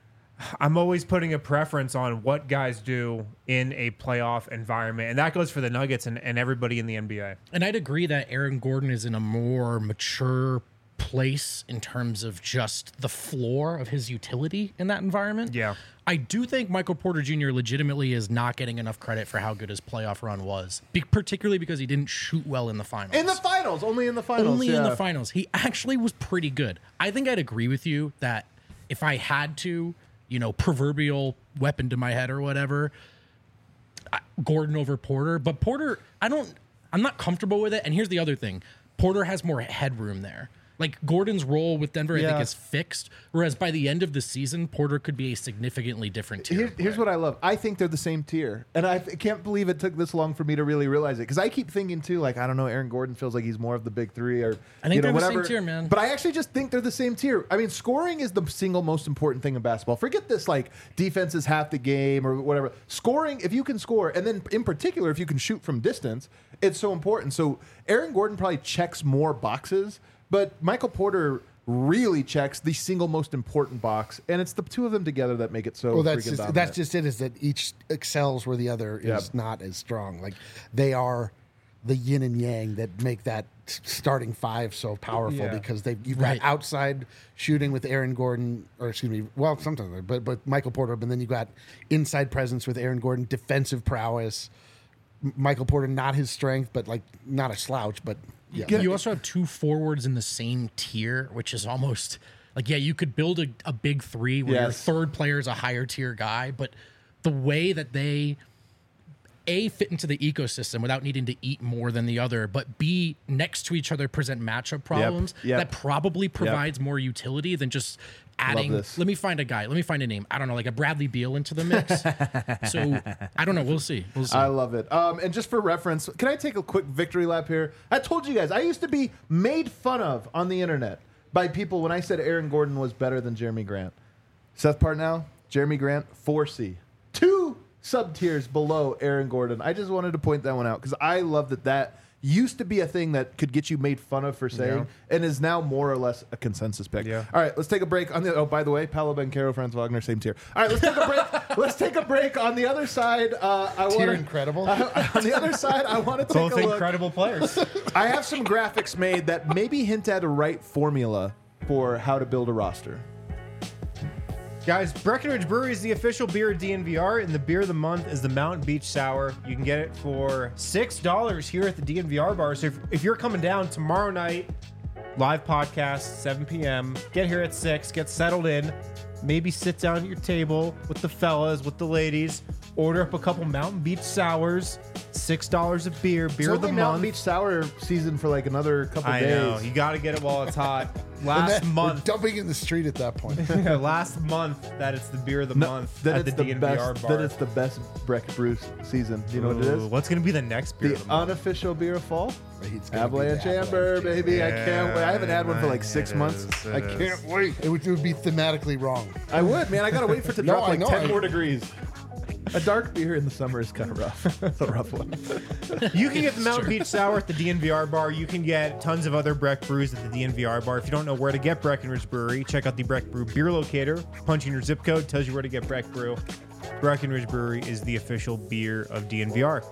a preference on what guys do in a playoff environment, and that goes for the Nuggets and everybody in the NBA. And I'd agree that Aaron Gordon is in a more mature place in terms of just the floor of his utility in that environment. Yeah. I do think Michael Porter Jr. legitimately is not getting enough credit for how good his playoff run was, particularly because he didn't shoot well in the finals. In the finals, only in the finals. Only in yeah. the finals. He actually was pretty good. I think I'd agree with you that if I had to, proverbial weapon to my head or whatever, Gordon over Porter. But Porter, I'm not comfortable with it. And here's the other thing. Porter has more headroom there. Like Gordon's role with Denver, I Yeah. think is fixed. Whereas by the end of the season, Porter could be a significantly different tier. Here's what I love. I think they're the same tier, and I can't believe it took this long for me to really realize it. Because I keep thinking too, like I don't know, Aaron Gordon feels like he's more of the big three, or I think you know, they're the same whatever. tier, man. But I actually just think they're the same tier. I mean, scoring is the single most important thing in basketball. Forget this, like defense is half the game or whatever. Scoring, if you can score, and then in particular, if you can shoot from distance, it's so important. So Aaron Gordon probably checks more boxes, but Michael Porter really checks the single most important box, and it's the two of them together that make it so. Well, that's freaking just dominant. that's just it. Is that each excels where the other is Yep. not as strong. Like they are the yin and yang that make that starting five so powerful Yeah. because you've Right. got outside shooting with Aaron Gordon, or excuse me, well sometimes, but Michael Porter, but then you got inside presence with Aaron Gordon, defensive prowess. Michael Porter, not his strength, but like not a slouch, but yeah. You also have two forwards in the same tier, which is almost like, yeah, you could build a big three where your Yes. third player is a higher tier guy, but the way that they fit into the ecosystem without needing to eat more than the other, but B, next to each other present matchup problems Yep. that probably provides more utility than just adding. this. Let me find a guy. Let me find a name. I don't know, like a Bradley Beal into the mix. So I don't know. We'll see. We'll see. I love it. And just for reference, can I take a quick victory lap here? I told you guys, I used to be made fun of on the internet by people when I said Aaron Gordon was better than Jeremy Grant. Seth Partnow, Jeremy Grant, 4C. 2 sub-tiers below Aaron Gordon. I just wanted to point that one out because I love that used to be a thing that could get you made fun of for saying and is now more or less a consensus pick. Yeah. All right, let's take a break on the. Oh, by the way, Paolo Banchero, Franz Wagner, same tier. All right, let's take a break. Let's take a break. On the other side, I want Tier incredible. On the other side, I want to take Both a look. incredible players. I have some graphics made that maybe hint at a right formula for how to build a roster. Guys, Breckenridge Brewery is the official beer of DNVR, and the beer of the month is the Mountain Beach Sour. You can get it for $6 here at the DNVR bar. So if you're coming down tomorrow night, live podcast, 7 p.m., get here at 6, get settled in, maybe sit down at your table with the fellas, with the ladies, order up a couple Mountain Beach Sours, $6 of beer It's of the only Mountain month. Beach Sour season for like another couple I days. know, you got to get it while it's hot. And Last then month. we're dumping in the street at that point. Last month that it's the beer of the month Then at it's the the DNVR best. bar. Then it's the best Breck Brew season. Do you know what it Ooh, is? what's going to be the next beer The of the month? unofficial beer of fall. It's gonna be Avalanche the Amber, Avalanche baby. I Yeah, can't wait. I haven't had one for like it 6 is, months. it I is. can't wait. It would be thematically wrong. I would, man. I gotta wait for it to No, drop I like know. 10 more degrees. A dark beer in the summer is kind of rough. It's a rough one. You can get the Mountain Beach Sour at the DNVR bar. You can get tons of other Breck brews at the DNVR bar. If you don't know where to get Breckenridge Brewery, check out the Breck Brew beer locator. Punch in your zip code, tells you where to get Breck Brew. Breckenridge Brewery is the official beer of DNVR.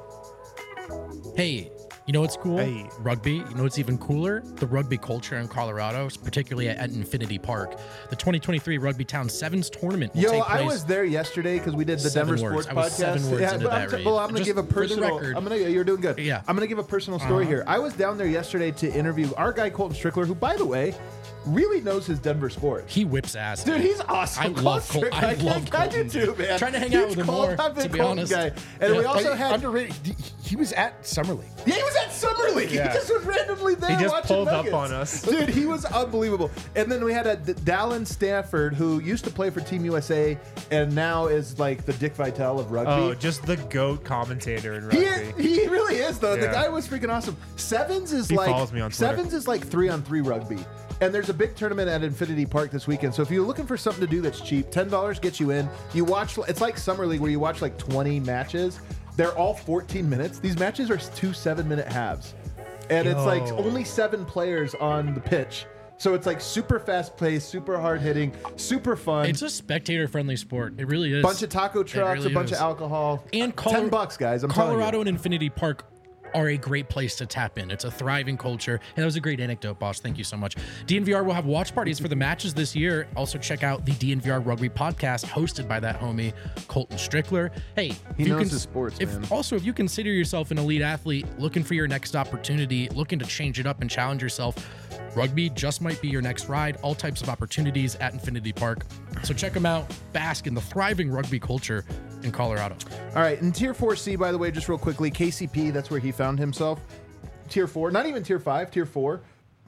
Hey, you know what's cool? Hey. Rugby. You know what's even cooler? The rugby culture in Colorado, particularly at Infinity Park. The 2023 Rugby Town Sevens tournament will Yo, take place. I was there yesterday because we did the 7 Denver words. Sports I was 7 Podcast. words into but that I'm read. gonna Just give a for the personal. record. You're doing good. Yeah. I'm gonna give a personal story here. I was down there yesterday to interview our guy Colton Strickler, who, by the way, really knows his Denver sports. He whips ass. Dude, he's awesome. I love Colton. I love I do Colton, too, dude. man. Trying to hang out Huge with him more, Colton, to be Colton honest. guy. And we Yeah. also had. underrated. He was at Summer League. Yeah, he was at Summer League. Yeah. He just was randomly there. He just watching pulled up Nuggets. on us. Dude, he was unbelievable. And then we had a Dallin Stanford, who used to play for Team USA and now is like the Dick Vitale of rugby. Oh, just the GOAT commentator in rugby. He really is though. The Yeah. guy was freaking awesome. Sevens is He like follows me on Twitter. Sevens is like 3-on-3 rugby. And there's a big tournament at Infinity Park this weekend. So if you're looking for something to do that's cheap, $10 gets you in. You watch. It's like Summer League where you watch like 20 matches. They're all 14 minutes. These matches are 2 7-minute halves, and it's like Yo. only 7 players on the pitch. So it's like super fast paced, super hard hitting, super fun. It's a spectator-friendly sport. It really is. Bunch of taco trucks, really a bunch is. of alcohol, And $10, guys. I'm telling you. Colorado and Infinity Park are a great place to tap in. It's a thriving culture. And that was a great anecdote, boss. Thank you so much. DNVR will have watch parties for the matches this year. Also check out the DNVR Rugby podcast hosted by that homie, Colton Strickler. Hey, He knows his sports, man. Also, if you consider yourself an elite athlete looking for your next opportunity, looking to change it up and challenge yourself, rugby just might be your next ride. All types of opportunities at Infinity Park. So check them out. Bask in the thriving rugby culture in Colorado. All right, in Tier 4C, by the way, just real quickly, KCP, that's where he found himself. Tier 4, not even Tier 5, Tier 4.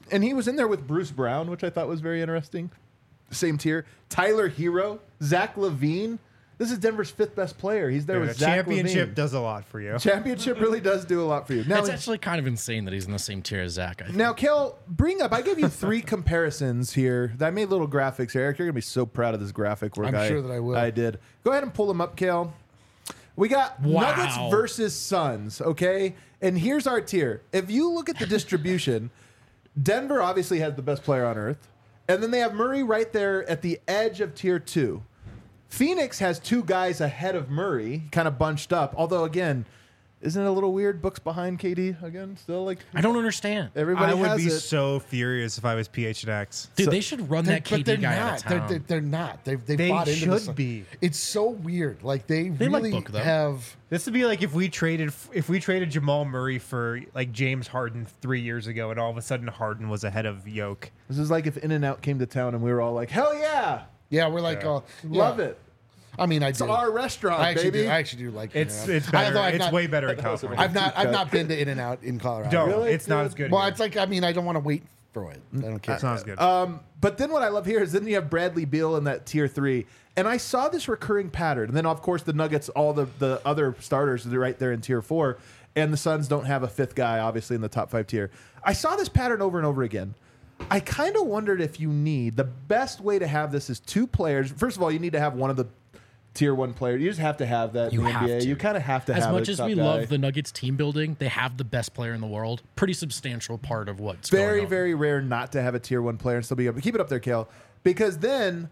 And he was in there with Bruce Brown, which I thought was very interesting. Same tier. Tyler Hero, Zach LaVine. This is Denver's 5th best player. He's there The with Zach championship LaVine. does a lot for you. Championship really does do a lot for you. Now, It's actually kind of insane that he's in the same tier as Zach. I think. now, Kel, I gave you 3 comparisons here. I made little graphics here. Eric, you're going to be so proud of this graphic work. I'm sure that I will. I did. Go ahead and pull them up, Kel. We got Wow. Nuggets versus Suns, okay? And here's our tier. If you look at the distribution, Denver obviously has the best player on earth. And then they have Murray right there at the edge of tier 2. Phoenix has 2 guys ahead of Murray, kind of bunched up. Although, again, isn't it a little weird? Books behind KD again, still like I don't understand. everybody I would has be it. so furious if I was PHNX. Dude, they should run that But KD guy out of town. They're not. They've They bought into this. should be. It's so weird. Like they like really Book, though. have. This would be like if we traded Jamal Murray for like James Harden 3 years ago, and all of a sudden Harden was ahead of Yoke. This is like if In-N-Out came to town and we were all like, hell yeah, Yeah, we're like, love yeah. it. I mean, I It's do. our restaurant, I actually baby. do. I actually do like. It's In-N-Out. it's better. Although I've It's not- way better in California. I've not been to In-N-Out in Colorado. Don't. Really? It's not as good. Well, here. it's like I mean, I don't want to wait for it. I don't care. Sounds good. But then what I love here is then you have Bradley Beal in that tier 3. And I saw this recurring pattern. And then, of course, the Nuggets, all the other starters are right there in tier 4. And the Suns don't have a 5th guy, obviously, in the top 5 tier. I saw this pattern over and over again. I kind of wondered if you need, the best way to have this is 2 players. First of all, you need to have one of the tier 1 players. You just have to have that You in the have NBA. to. You kind of have to As have much a as top we guy. love the Nuggets team building, they have the best player in the world. Pretty substantial part of what's very, going on. very rare not to have a tier 1 player and still be able to keep it up there, Kale. Because then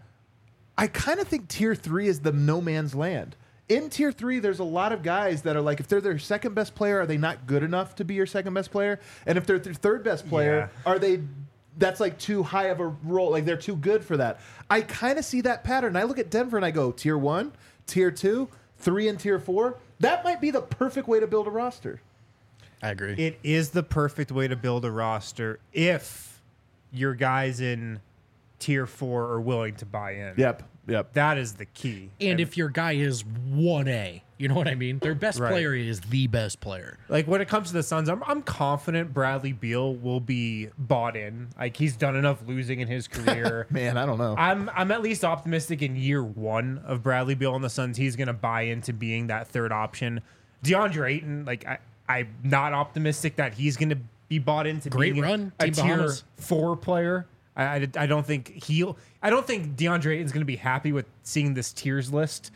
I kind of think tier 3 is the no man's land. In tier 3, there's a lot of guys that are like, if they're their second best player, are they not good enough to be your second best player? And if they're their third best player, are they? That's like too high of a role. Like they're too good for that. I kind of see that pattern. I look at Denver and I go tier 1, tier 2, 3, and tier 4. That might be the perfect way to build a roster. I agree. It is the perfect way to build a roster if your guys in tier 4 are willing to buy in. Yep. That is the key. and if your guy is 1A, you know what I mean? Their best Right. player is the best player. Like when it comes to the Suns, I'm confident Bradley Beal will be bought in. Like he's done enough losing in his career. Man, I don't know. I'm at least optimistic in year 1 of Bradley Beal on the Suns. He's going to buy into being that third option. DeAndre Ayton, like I'm not optimistic that he's going to be bought into Great being run, a Team tier Bahamas. 4 player. I don't think I don't think DeAndre Ayton's going to be happy with seeing this tiers list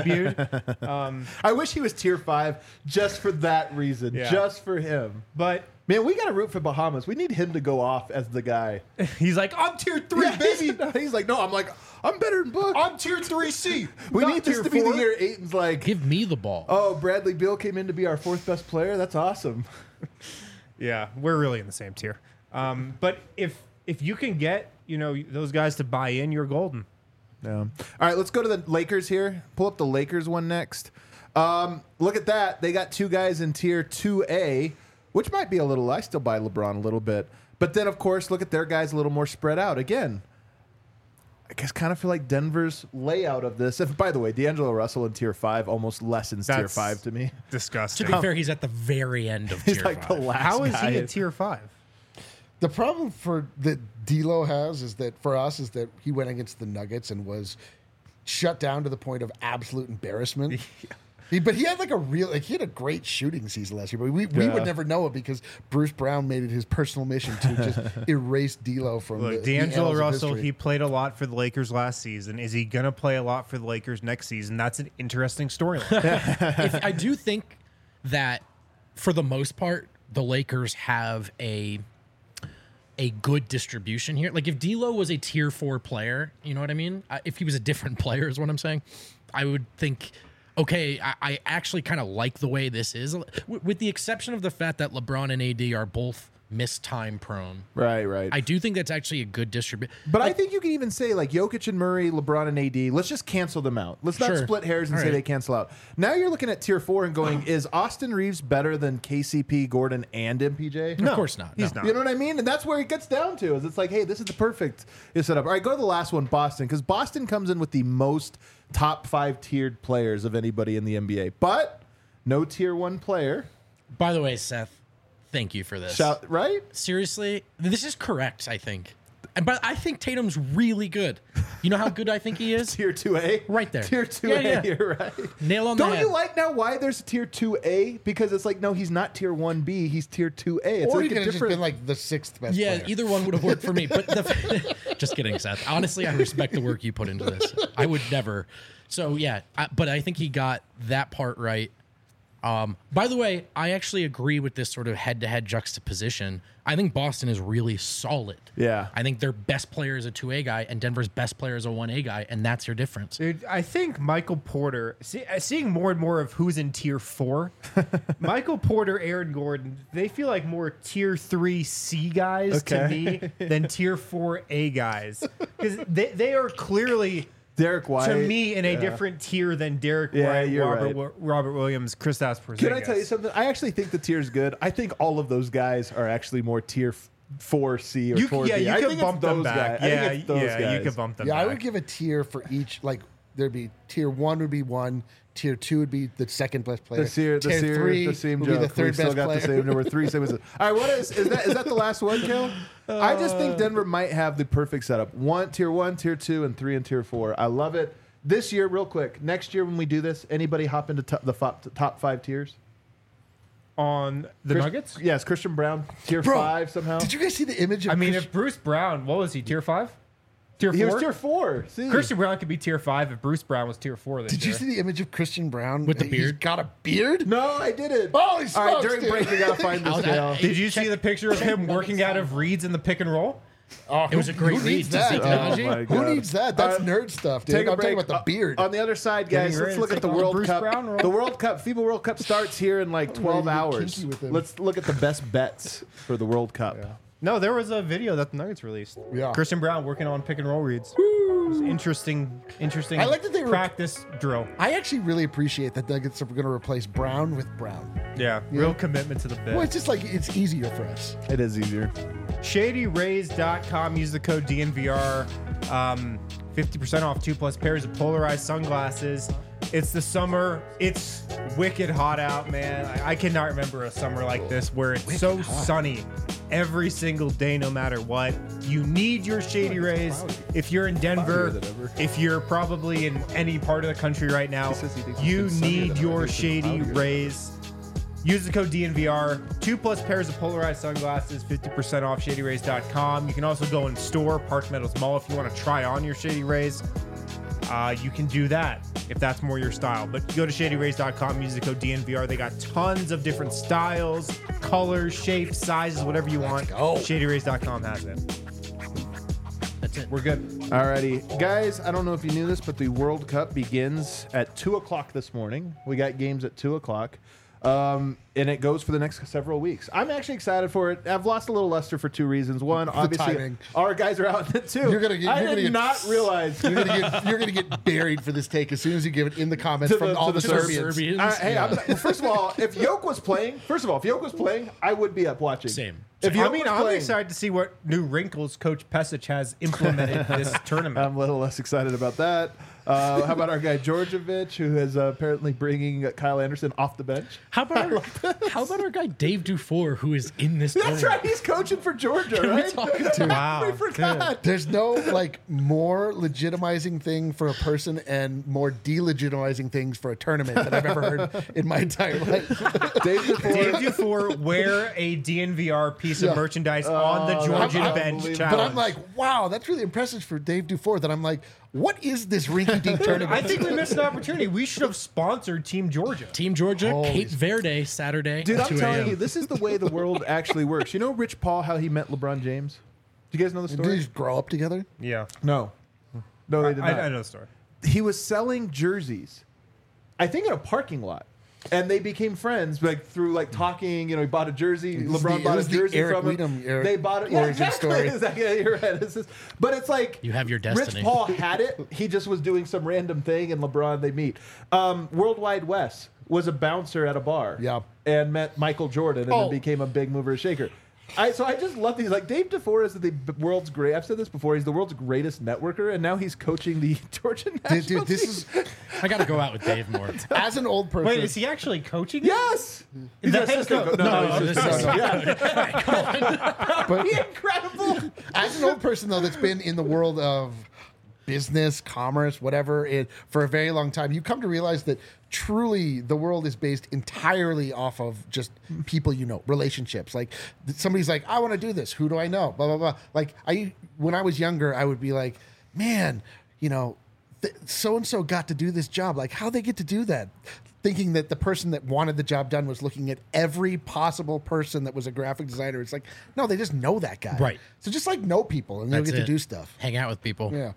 debuted. I wish he was tier 5 just for that reason. Yeah. Just for him. But Man, we got to root for Bahamas. We need him to go off as the guy. he's like, I'm tier 3, Yeah, baby. He's like, no, I'm better than Book. I'm tier 3C. We not need this tier to be 4. the year Aiton's like, Give me the ball. oh, Bradley Beal came in to be our 4th best player. That's awesome. Yeah, we're really in the same tier. But if you can get those guys to buy in, you're golden. Yeah. All right, let's go to the Lakers here. Pull up the Lakers one next. Look at that. They got 2 guys in tier 2A, which might be a little. I still buy LeBron a little bit. But then, of course, look at their guys a little more spread out. Again, I guess kind of feel like Denver's layout of this. If, by the way, D'Angelo Russell in tier 5 almost lessens tier That's 5 to me. Disgusting. To be fair, he's at the very end of He's tier like 5. the last How is guy. he a tier 5? The problem that D'Lo has is that for us is that he went against the Nuggets and was shut down to the point of absolute embarrassment. But he had he had a great shooting season last year, but we would never know it because Bruce Brown made it his personal mission to just erase D'Lo from Look, the D'Angelo annals of Russell, history. he played a lot for the Lakers last season. Is he going to play a lot for the Lakers next season? That's an interesting storyline. I do think that for the most part, the Lakers have a good distribution here. Like if D'Lo was a tier 4 player, you know what I mean? If he was a different player is what I'm saying, I would think, okay, I actually kind of like the way this is, with the exception of the fact that LeBron and AD are both mistime prone. Right. I do think that's actually a good distribution. But I think you can even say like Jokic and Murray, LeBron and AD, let's just cancel them out. Let's not Sure. split hairs and All say right. they cancel out. Now you're looking at tier 4 and going, is Austin Reeves better than KCP, Gordon, and MPJ? Of course not. He's No. not. You know what I mean? And that's where it gets down to is it's like, hey, this is the perfect setup. All right, go to the last one, Boston, because Boston comes in with the most top 5 tiered players of anybody in the NBA. But no tier 1 player. By the way, Seth, Thank you for this. Shout, right? Seriously, this is correct, I think. But I think Tatum's really good. You know how good I think he is? Tier 2A? Right there. Tier 2A, Yeah. you're right. Nail on the Don't head. you like now why there's a tier 2A? Because it's like, no, he's not tier 1B, he's tier 2A. It's Or like he could a have just different. been like the 6th best Yeah, player. either one would have worked for me. But just kidding, Seth. Honestly, I respect the work you put into this. I would never. So yeah, but I think he got that part right. By the way, I actually agree with this sort of head-to-head juxtaposition. I think Boston is really solid. Yeah. I think their best player is a 2A guy, and Denver's best player is a 1A guy, and that's your difference. Dude, I think Michael Porter, seeing more and more of who's in tier 4, Michael Porter, Aaron Gordon, they feel like more tier 3 C guys to Okay. me than tier 4 A guys. Because they are clearly, Derek White. to me, in a different tier than Derek Yeah, White, you're Robert Williams, Kristaps Porzingis. Can I tell you something? I actually think the tier's good. I think all of those guys are actually more tier 4C or 4B. You I could think bump it's them those back. guys. I Yeah, think it's those yeah, guys. you could bump them Yeah, back. I would give a tier for each. Like there'd be tier 1 would be 1, tier 2 would be the second best player. The same tier 3 the same would joke. be the third we still best got player. the same number. 3 same as it. All right, what is that the last one, Kel? I just think Denver might have the perfect setup. Tier 1, tier 2, and 3 and tier 4. I love it. This year, real quick. Next year when we do this, anybody hop into the top 5 tiers? On the Nuggets? Yes, Christian Brown, tier Bro, 5 somehow. Did you guys see the image of I mean, Chris- if Bruce Brown, what was he, tier 5? Tier 4? He was tier 4. See? Christian Brown could be tier 5 if Bruce Brown was tier 4 this Did year. you see the image of Christian Brown With the He's beard? got a beard? No, I didn't. Holy smokes, All right, during dude. break, we got to find this, How's that? Kel. Did you see the picture of him working out of reads in the pick and roll? Oh, It was a great who read needs to that? Zeke Oh, Naji. my Who God. needs that? That's All right, nerd stuff, dude. Take a I'm break. talking about the beard. On the other side, guys, Getting let's ready look to at the take on World Bruce Cup. Brown roll. The World Cup, FIBA World Cup starts here in like 12 ready to get hours. kinky with him. Let's look at the best bets for the World Cup. No, there was a video that the Nuggets released. Yeah. Christian Brown working on pick and roll reads. It was interesting I like that they were- practice drill. I actually really appreciate that Nuggets are going to replace Brown with Brown. Yeah, real commitment to the bit. Well, it's just like it's easier for us. It is easier. ShadyRays.com. Use the code DNVR. 50% off 2+ pairs of polarized sunglasses. It's the summer. It's wicked hot out, man. I cannot remember a summer like this where it's so sunny every single day, no matter what. You need your Shady Rays. If you're in Denver, than ever. if you're probably in any part of the country right now, says he thinks you it's been sunnier need than ever. your It's been Shady cloudier. Rays. Use the code DNVR. 2+ pairs of polarized sunglasses, 50% off ShadyRays.com. You can also go in store, Park Meadows Mall, if you want to try on your Shady Rays. You can do that if that's more your style. But go to ShadyRays.com, use the code DNVR. They got tons of different styles, colors, shapes, sizes, whatever you want. go. ShadyRays.com has it. That's it. We're good. Alrighty. Guys, I don't know if you knew this, but the World Cup begins at 2 o'clock this morning. We got games at 2 o'clock. And it goes for the next several weeks. I'm actually excited for it. I've lost a little luster for 2 reasons. One, obviously, timing. our guys are out in it too. You're gonna get- I you're did gonna get- not realize. You're gonna get buried for this take as soon as you give it in the comments To from the- all to the the Serbians. Serbians. Hey, well, first of all, if Yoke was playing, I would be up watching. Same. If I Yoke mean, was I'm playing, excited to see what new wrinkles Coach Pesic has implemented this tournament. I'm a little less excited about that. How about our guy Djordjevic, who is apparently bringing Kyle Anderson off the bench? How about our guy Dave Dufour, who is in this That's tournament? right. He's coaching for Georgia, Can we right? talk about- Wow. We forgot. There's no like more legitimizing thing for a person and more delegitimizing things for a tournament that I've ever heard in my entire life. Dave Dufour. Dave Dufour wear a DNVR piece of merchandise on the Georgian bench unbelievable. challenge. But I'm like, wow, that's really impressive for Dave Dufour. That I'm like, what is this rinky-dink tournament? I think we missed an opportunity. We should have sponsored Team Georgia. Team Georgia, Holy Cape Verde, Saturday. Dude, I'm 2 telling a.m. you, this is the way the world actually works. You know Rich Paul, how he met LeBron James? Do you guys know the Did they story? just grow up together? Yeah, No. No, they did not. I know the story. He was selling jerseys, I think in a parking lot. And they became friends, like through like talking. You know, he bought a jersey. was LeBron the- bought it a was the jersey Eric from him. Weedham They bought it. Yeah, origin exactly. story. Exactly. Yeah, you're right. But it's like You have your destiny. Rich Paul had it. He just was doing some random thing, and LeBron they meet. Worldwide Wes was a bouncer at a bar. Yeah. And met Michael Jordan, and then became a big mover and shaker. I just love these. Like Dave DeFore is the world's great. I've said this before. He's the world's greatest networker, and now he's coaching the Georgia national Dude, this team. is I got to go out with Dave more. as an old person. Wait, is he actually coaching? Yes. He's The an head assistant coach. coach. No, he's this just- is- yeah. but Incredible. as an old person though, that's been in the world of business, commerce, whatever, for a very long time, you come to realize that truly the world is based entirely off of just people you know, relationships. Like somebody's like, I want to do this. Who do I know? Blah blah blah. Like when I was younger, I would be like, man, you know, so and so got to do this job. Like how they get to do that? Thinking that the person that wanted the job done was looking at every possible person that was a graphic designer. It's like, no, they just know that guy. Right. So just like know people and they'll That's get it. to do stuff. Hang out with people. Yeah.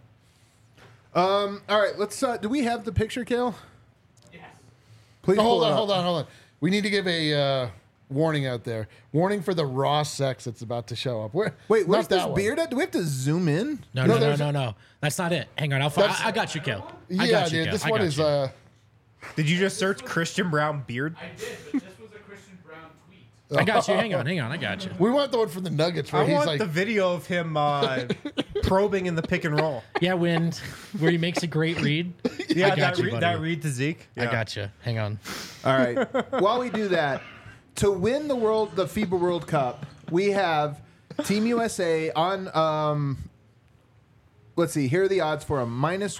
All right, let's. Do we have the picture, Kale? Yes. Please Oh, pull it up. hold on. We need to give a warning out there. Warning for the raw sex that's about to show up. Wait, not where's this that one. beard at? Do we have to zoom in? No, there's- no. That's not it. Hang on. That's- I got you, Kel. I Yeah, got you, dude. Kel. This I one got is. you. Did you just search Christian Brown beard? I did, but this was a Christian Brown tweet. I got you. Hang on. I got you. We want the one from the Nuggets where I he's want like, the video of him probing in the pick and roll. Yeah, where he makes a great read. Yeah, I got that, you, read, buddy. that read to Zeke. I got you. Hang on. All right. While we do that, to win the FIBA World Cup, we have Team USA on. Let's see. Here are the odds for a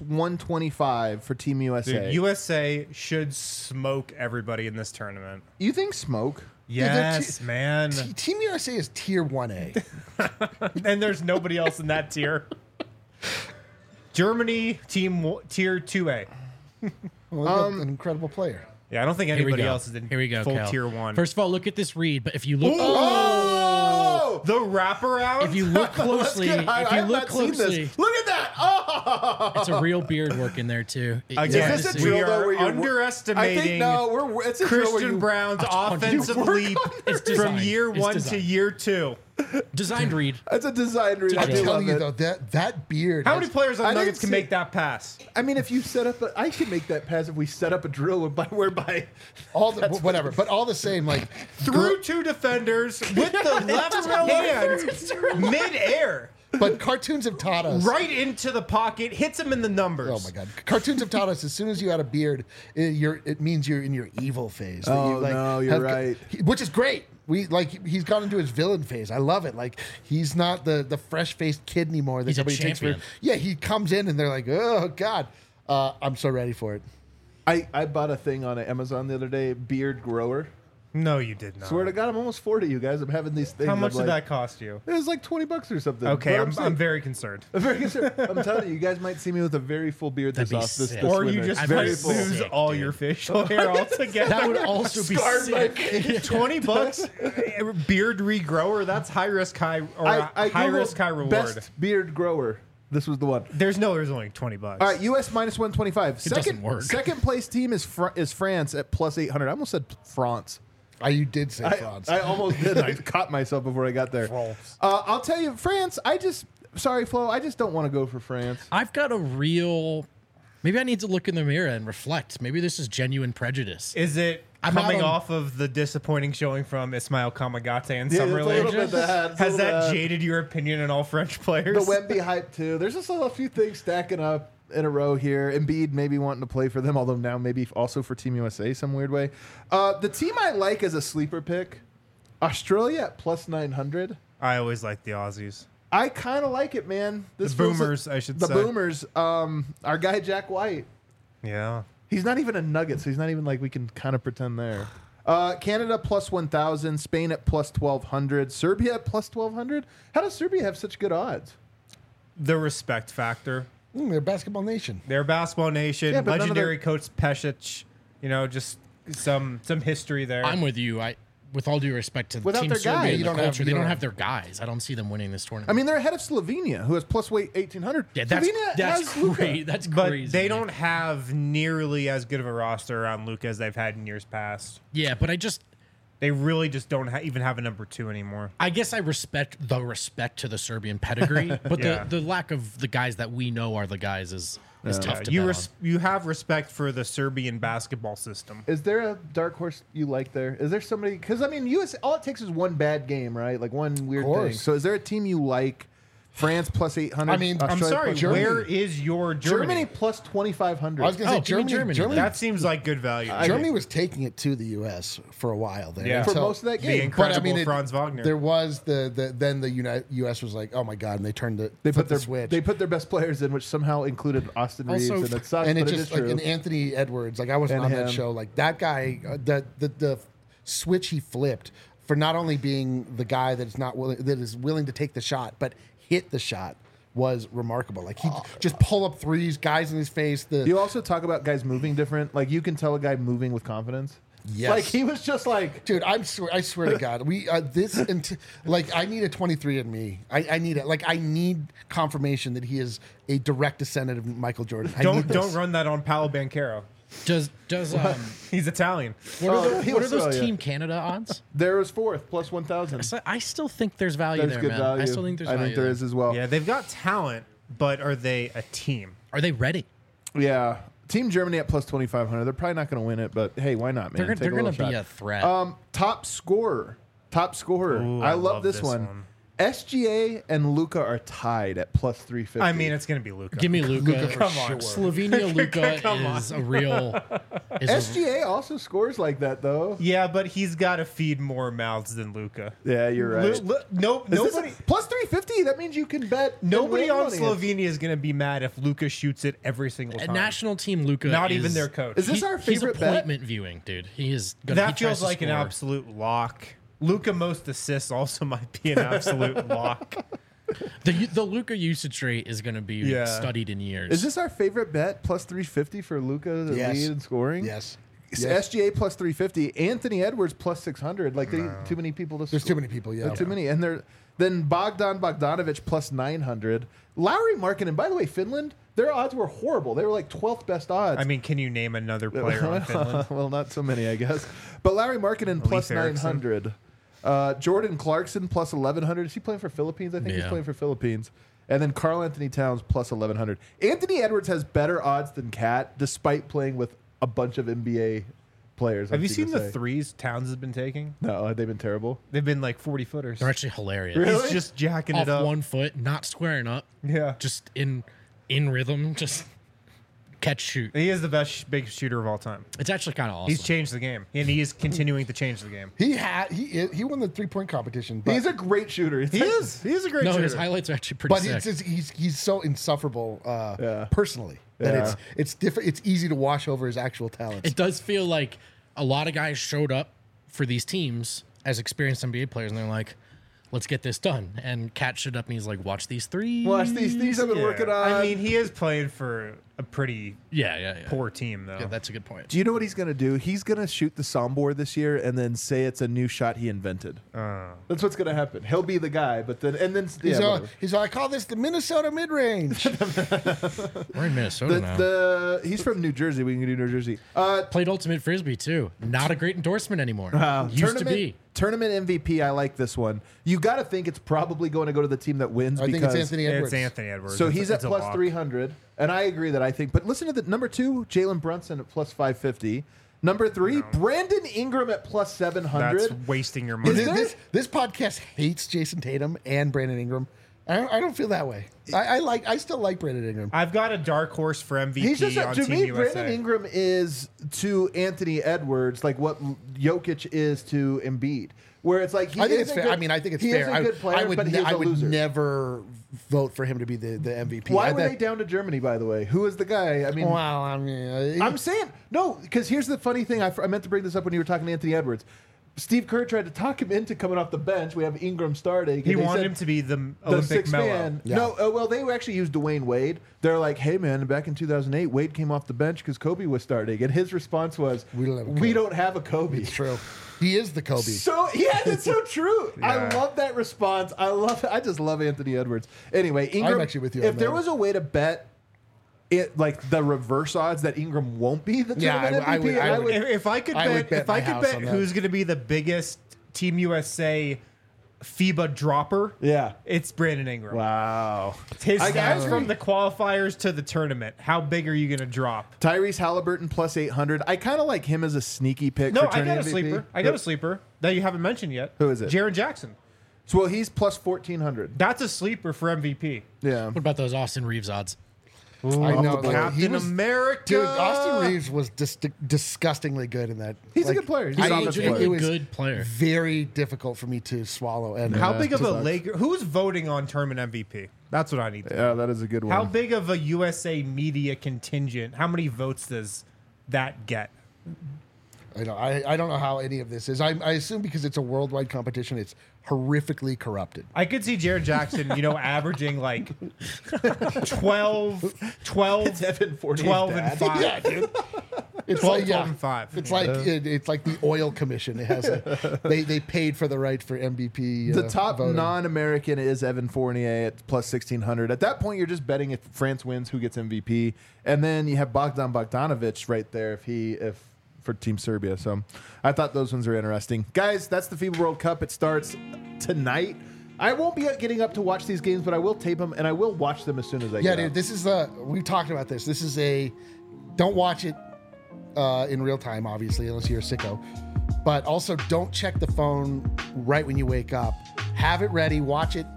-125 for Team USA. Dude, USA should smoke everybody in this tournament. You think smoke? Yes, man. Team USA is tier 1A. And there's nobody else in that tier. Germany, tier 2A. Well, they got an incredible player. Yeah, I don't think Here we anybody go. else is in Here we go. full Kel. tier 1. First of all, look at this read. But if you look, Oh! the wraparound? if you look closely, Let's get- I if you have look not seen closely, this. Look at that! Oh! it's a real beard work in there too. Again, Is this a we drill, though, are where you're- underestimating I think no, it's a drill where Christian you- Brown's Oh, offensive work leap on It's from designed. year It's 1 to designed. year 2. Designed read. That's a design read. I I'm do I'm telling love you it. though, that beard. How has- many players I on didn't Nuggets can see- make that pass? I mean, if you set up, I could make that pass if we set up a drill whereby. all the, whatever, but all the same, like Through two defenders with the left hand mid-air, but cartoons have taught us. right into the pocket, hits him in the numbers. Oh my god! Cartoons have taught us as soon as you had a beard, it means you're in your evil phase. that Oh, no, you're right. Which is great. He's gone into his villain phase. I love it. Like he's not the fresh faced kid anymore that He's a somebody takes for. champion. Yeah, he comes in and they're like, oh god, I'm so ready for it. I bought a thing on Amazon the other day, beard grower. No, you did not. Swear to God, I'm almost 40, you guys. I'm having these things. How much I'm did like, that cost you? It was like $20 or something. Okay, But I'm very concerned. I'm very concerned. I'm telling you, you guys might see me with a very full beard this That'd be off this sick. Or winter. you just I'd might be very full. lose sick, all dude. your facial hair altogether. That would also be Scarred my sick. face. $20 beard regrower. That's high risk, high high Googled risk, high reward. Best beard grower. This was the one. There's only $20. All right, US -125. doesn't work. Second place team is France at +800. I almost said France. You did say France. I almost did. I caught myself before I got there. France. I'll tell you, France. Sorry, Flo. I just don't want to go for France. I've got a real. Maybe I need to look in the mirror and reflect. Maybe this is genuine prejudice. Is it I'm coming out on- off of the disappointing showing from Ismail Kamagate and Yeah, Summer it's a little League? bit that. It's a Has little that bit jaded your opinion on all French players? The Wemby hype too. There's just a few things stacking up in a row here. Embiid maybe wanting to play for them, although now maybe also for Team USA some weird way. The team I like as a sleeper pick, Australia at +900. I always like the Aussies. I kind of like it, man. This The feels Boomers, like- I should the say. Boomers. Our guy Jack White. Yeah. He's not even a Nugget, so he's not even like we can kind of pretend there. Canada +1,000, Spain at +1,200, Serbia at +1,200. How does Serbia have such good odds? The respect factor. They're a basketball nation. They're a basketball nation. Yeah, but none of Legendary coach Pesic. Just some history there. I'm with you. With all due respect to Without Team their Serbia guy, and you the don't have- culture, you they don't don't have- have their guys. I don't see them winning this tournament. I mean, they're ahead of Slovenia, who has +weight 1,800. yeah, that's Slovenia that's has Luka. great. That's but crazy. they man. don't have nearly as good of a roster around Luka as they've had in years past. Yeah, but They really just don't even have a number 2 anymore. I guess I respect to the Serbian pedigree, but Yeah. the lack of the guys that we know are the guys is is tough to You bet on. you have respect for the Serbian basketball system. Is there a dark horse you like there? Is there somebody? Because I mean, US. All it takes is one bad game, right? Like one weird thing. course. So is there a team you like? France plus 800. I mean, I'm I'm Australia sorry, plus Germany. where is your Germany Germany? plus 2,500. I was going to Oh, say give me Germany. Germany. That seems like good value. Germany was taking it to the U.S. for a while there. Yeah. for until- most of that the game. incredible Franz Wagner. There was then the U.S. was like, oh my god, and they turned They flipped put their the switch. They put their best players in, which somehow included Austin Reeves, Also- and it sucks, and it but just it is like true. and Anthony Edwards, like I wasn't And on that him. show. Like that guy, the switch he flipped for not only being the guy that is willing to take the shot, but hit the shot was remarkable. Like he just pull up threes, guys in his face. You also talk about guys moving different. Like you can tell a guy moving with confidence. Yes. Like he was just like. Dude, I swear to God, we like I need a 23andMe. I need it. Like I need confirmation that he is a direct descendant of Michael Jordan. I need this. Don't run that on Paolo Banchero. Does He's Italian. what are, he what are was those Australia. Team Canada odds? There was fourth plus 1,000. So I still think there's value There's there, good man. value. I still think there's I value. think there there is as well. Yeah, they've got talent, but are they a team? Are they ready? Yeah. Team Germany at plus 2,500. They're probably not going to win it, but hey, why not, man? They're Take going little to be shot. a threat. Top scorer. Ooh, I love this one. SGA and Luca are tied at plus 350. I mean, it's going to be Luka. Give me Luca. Come on. Slovenia Luca Come on. is a real. SGA also scores like that, though. Yeah, but he's got to feed more mouths than Luka. Yeah, you're right. Nobody. Plus 350. That means you can bet. Nobody and win on money. Slovenia is going to be mad if Luka shoots it every single A time. national team Luca. Not is, even their coach. Is this our He's favorite bet? appointment viewing, dude. He is. That feels like an absolute lock. Luka most assists also might be an absolute lock. The Luca usage rate is going to be Yeah. studied in years. Is this our favorite bet? Plus 350 for Luca to Yes. lead in scoring? Yes. SGA plus 350. Anthony Edwards plus 600. Like, too many people to There's score. too many people. Yeah. There are too many. And then Bogdanovich plus 900. Lowry Markkanen, by the way, Finland, their odds were horrible. They were like 12th best odds. I mean, can you name another player on Finland? Well, not so many, I guess. But Larry Markkanen plus Eriksson. 900. Jordan Clarkson plus 1,100. Is he playing for Philippines? I think he's Yeah. playing for Philippines. And then Karl Anthony Towns plus 1,100. Anthony Edwards has better odds than Cat, despite playing with a bunch of NBA players. Have I'm you gonna seen the say. threes Towns has been taking? No, they've been terrible. They've been like 40 footers. They're actually hilarious. Really? He's just jacking Off it up. 1 foot, not squaring up, Yeah. just in rhythm, just catch shoot. He is the best big shooter of all time. It's actually kind of awesome. He's changed the game, and he is continuing to change the game. He won the 3-point competition. But, He's a great shooter. He is. He is a great no, shooter. his highlights are actually pretty but sick. he's so insufferable Yeah. personally that Yeah. it's different. It's easy to wash over his actual talents. It does feel like a lot of guys showed up for these teams as experienced NBA players, and they're like, let's get this done. And Cat showed up and he's like, watch these threes. Watch these things I've been Yeah. working on. I mean, he is playing for a pretty Yeah. poor team, though. Yeah, that's a good point. do you know what he's going to do? He's going to shoot the soundboard this year and then say it's a new shot he invented. That's what's going to happen. He'll be the guy, but then whatever. He's like, I call this the Minnesota mid range. We're in Minnesota now. He's from New Jersey. We can do New Jersey. Played Ultimate Frisbee, too. Not a great endorsement anymore. Used to be. Tournament MVP. I like this one. You got to think it's probably going to go to the team that wins. I think because it's Anthony Edwards. It's Anthony Edwards. So It's- he's at it's a plus lock. 300, and I agree that I think. But listen to the number 2, Jalen Brunson at plus 550. Number 3, Brandon Ingram at plus 700. That's wasting your money. This podcast hates Jason Tatum and Brandon Ingram. I don't feel that way. I still like Brandon Ingram. I've got a dark horse for MVP He's just on to Team me. USA. Brandon Ingram is to Anthony Edwards like what Jokic is to Embiid, where it's like he I think is it's a fair. good- I mean, I think it's he fair. is a good player, I would, but he's I a would loser. never vote for him to be the MVP. Why were they down to Germany, by the way? Who is the guy? I mean, Well, I mean, I'm saying no, because here's the funny thing. I meant to bring this up when you were talking to Anthony Edwards. Steve Kerr tried to talk him into coming off the bench. We have Ingram starting. He and they wanted said him to be the the Olympic sixth Melo. man. Yeah. No, well, they actually used Dwayne Wade. They're like, hey, man, back in 2008, Wade came off the bench because Kobe was starting. And his response was, We don't have a Kobe." we don't have a Kobe. it's true. He is the Kobe. So yeah, that's so true. I Yeah. love that response. I just love Anthony Edwards. Anyway, Ingram. actually with you If on there that. was a way to bet it, like the reverse odds that Ingram won't be the Yeah, tournament I would- MVP, I would- If I could I would bet, bet if I my could house bet on that. who's going to be the biggest Team USA FIBA dropper, Yeah. it's Brandon Ingram. Wow. His I stats agree. from the qualifiers to the tournament. How big are you going to drop? Tyrese Halliburton plus 800. I kind of like him as a sneaky pick. No, for I turning got a MVP. sleeper. I got a sleeper that you haven't mentioned yet. Who is it? Jaren Jackson. So, well, he's plus 1400. That's a sleeper for MVP. Yeah. What about those Austin Reeves odds? I know. the board. Like, he Captain was, America. dude, Austin Reeves was disgustingly good in that. He's a good player. He's I- an offensive player. it was Good player. very difficult for me to swallow. And How big of a sucks. Laker? Who's voting on tournament MVP? That's what I need to know. Yeah, that is a good one. How big of a USA media contingent? How many votes does that get? I don't know how any of this is. I assume because it's a worldwide competition, it's horrifically corrupted. I could see Jaren Jackson, averaging like 12, It's Evan Fournier's 12 dad. and 5. Yeah, dude. It's 12, like 12 and 5. It's like it's like the oil commission. It has they paid for the right for MVP. The top voting. non-American is Evan Fournier at plus 1600. At that point, you're just betting if France wins, who gets MVP, and then you have Bogdan Bogdanovic right there if for Team Serbia. So I thought those ones are interesting, guys. That's the FIBA World Cup. It starts tonight. I won't be getting up to watch these games, but I will tape them and I will watch them as soon as I Yeah, get dude. up. This is we've talked about this. This is don't watch it in real time, obviously, unless you're a sicko. But also, don't check the phone right when you wake up. Have it ready. Watch it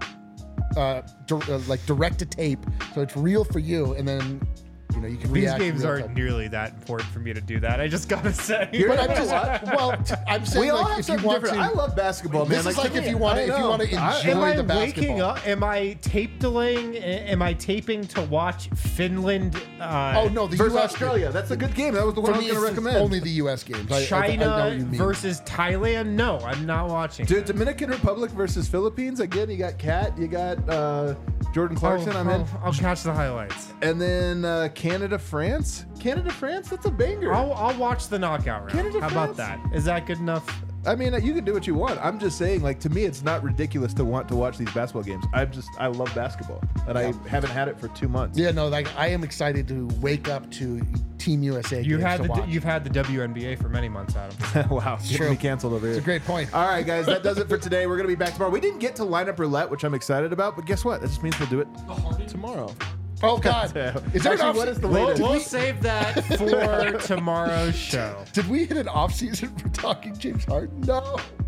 like direct to tape, so it's real for you, and then you can These react. games real aren't time. nearly that important for me to do that. I just gotta say. But I'm just I'm saying We all like have if you something want different. to. I love basketball, man. This is like to if me, you want I to know. enjoy Am I the waking basketball. up? Am I tape delaying? Am I taping to watch Finland? Oh no, the Versus U.S. Australia. That's a good game. That was the one For I was me, going to it's recommend. only the U.S. games. I know China what you mean. versus Thailand? No, I'm not watching. Dude, Dominican Republic versus Philippines. Again, you got Kat, you got Jordan Clarkson. I'm in. I'll catch the highlights. And then Canada, France. Canada, France. That's a banger. I'll watch the knockout round. Canada, How about France? that? Is that good enough? I mean, you can do what you want. I'm just saying, like, to me, it's not ridiculous to want to watch these basketball games. I love basketball, and I haven't had it for 2 months. Yeah, no, like I am excited to wake up to Team USA. You've games had to watch. you've had the WNBA for many months, Adam. Wow, getting true. me canceled over here. It's a great point. All right, guys, that does it for today. We're going to be back tomorrow. We didn't get to lineup roulette, which I'm excited about, but guess what? That just means we'll do it tomorrow. Oh God, is there Actually, an what off- is the We'll, latest? we'll save that for tomorrow's show. Did we hit an off season for talking James Harden? No.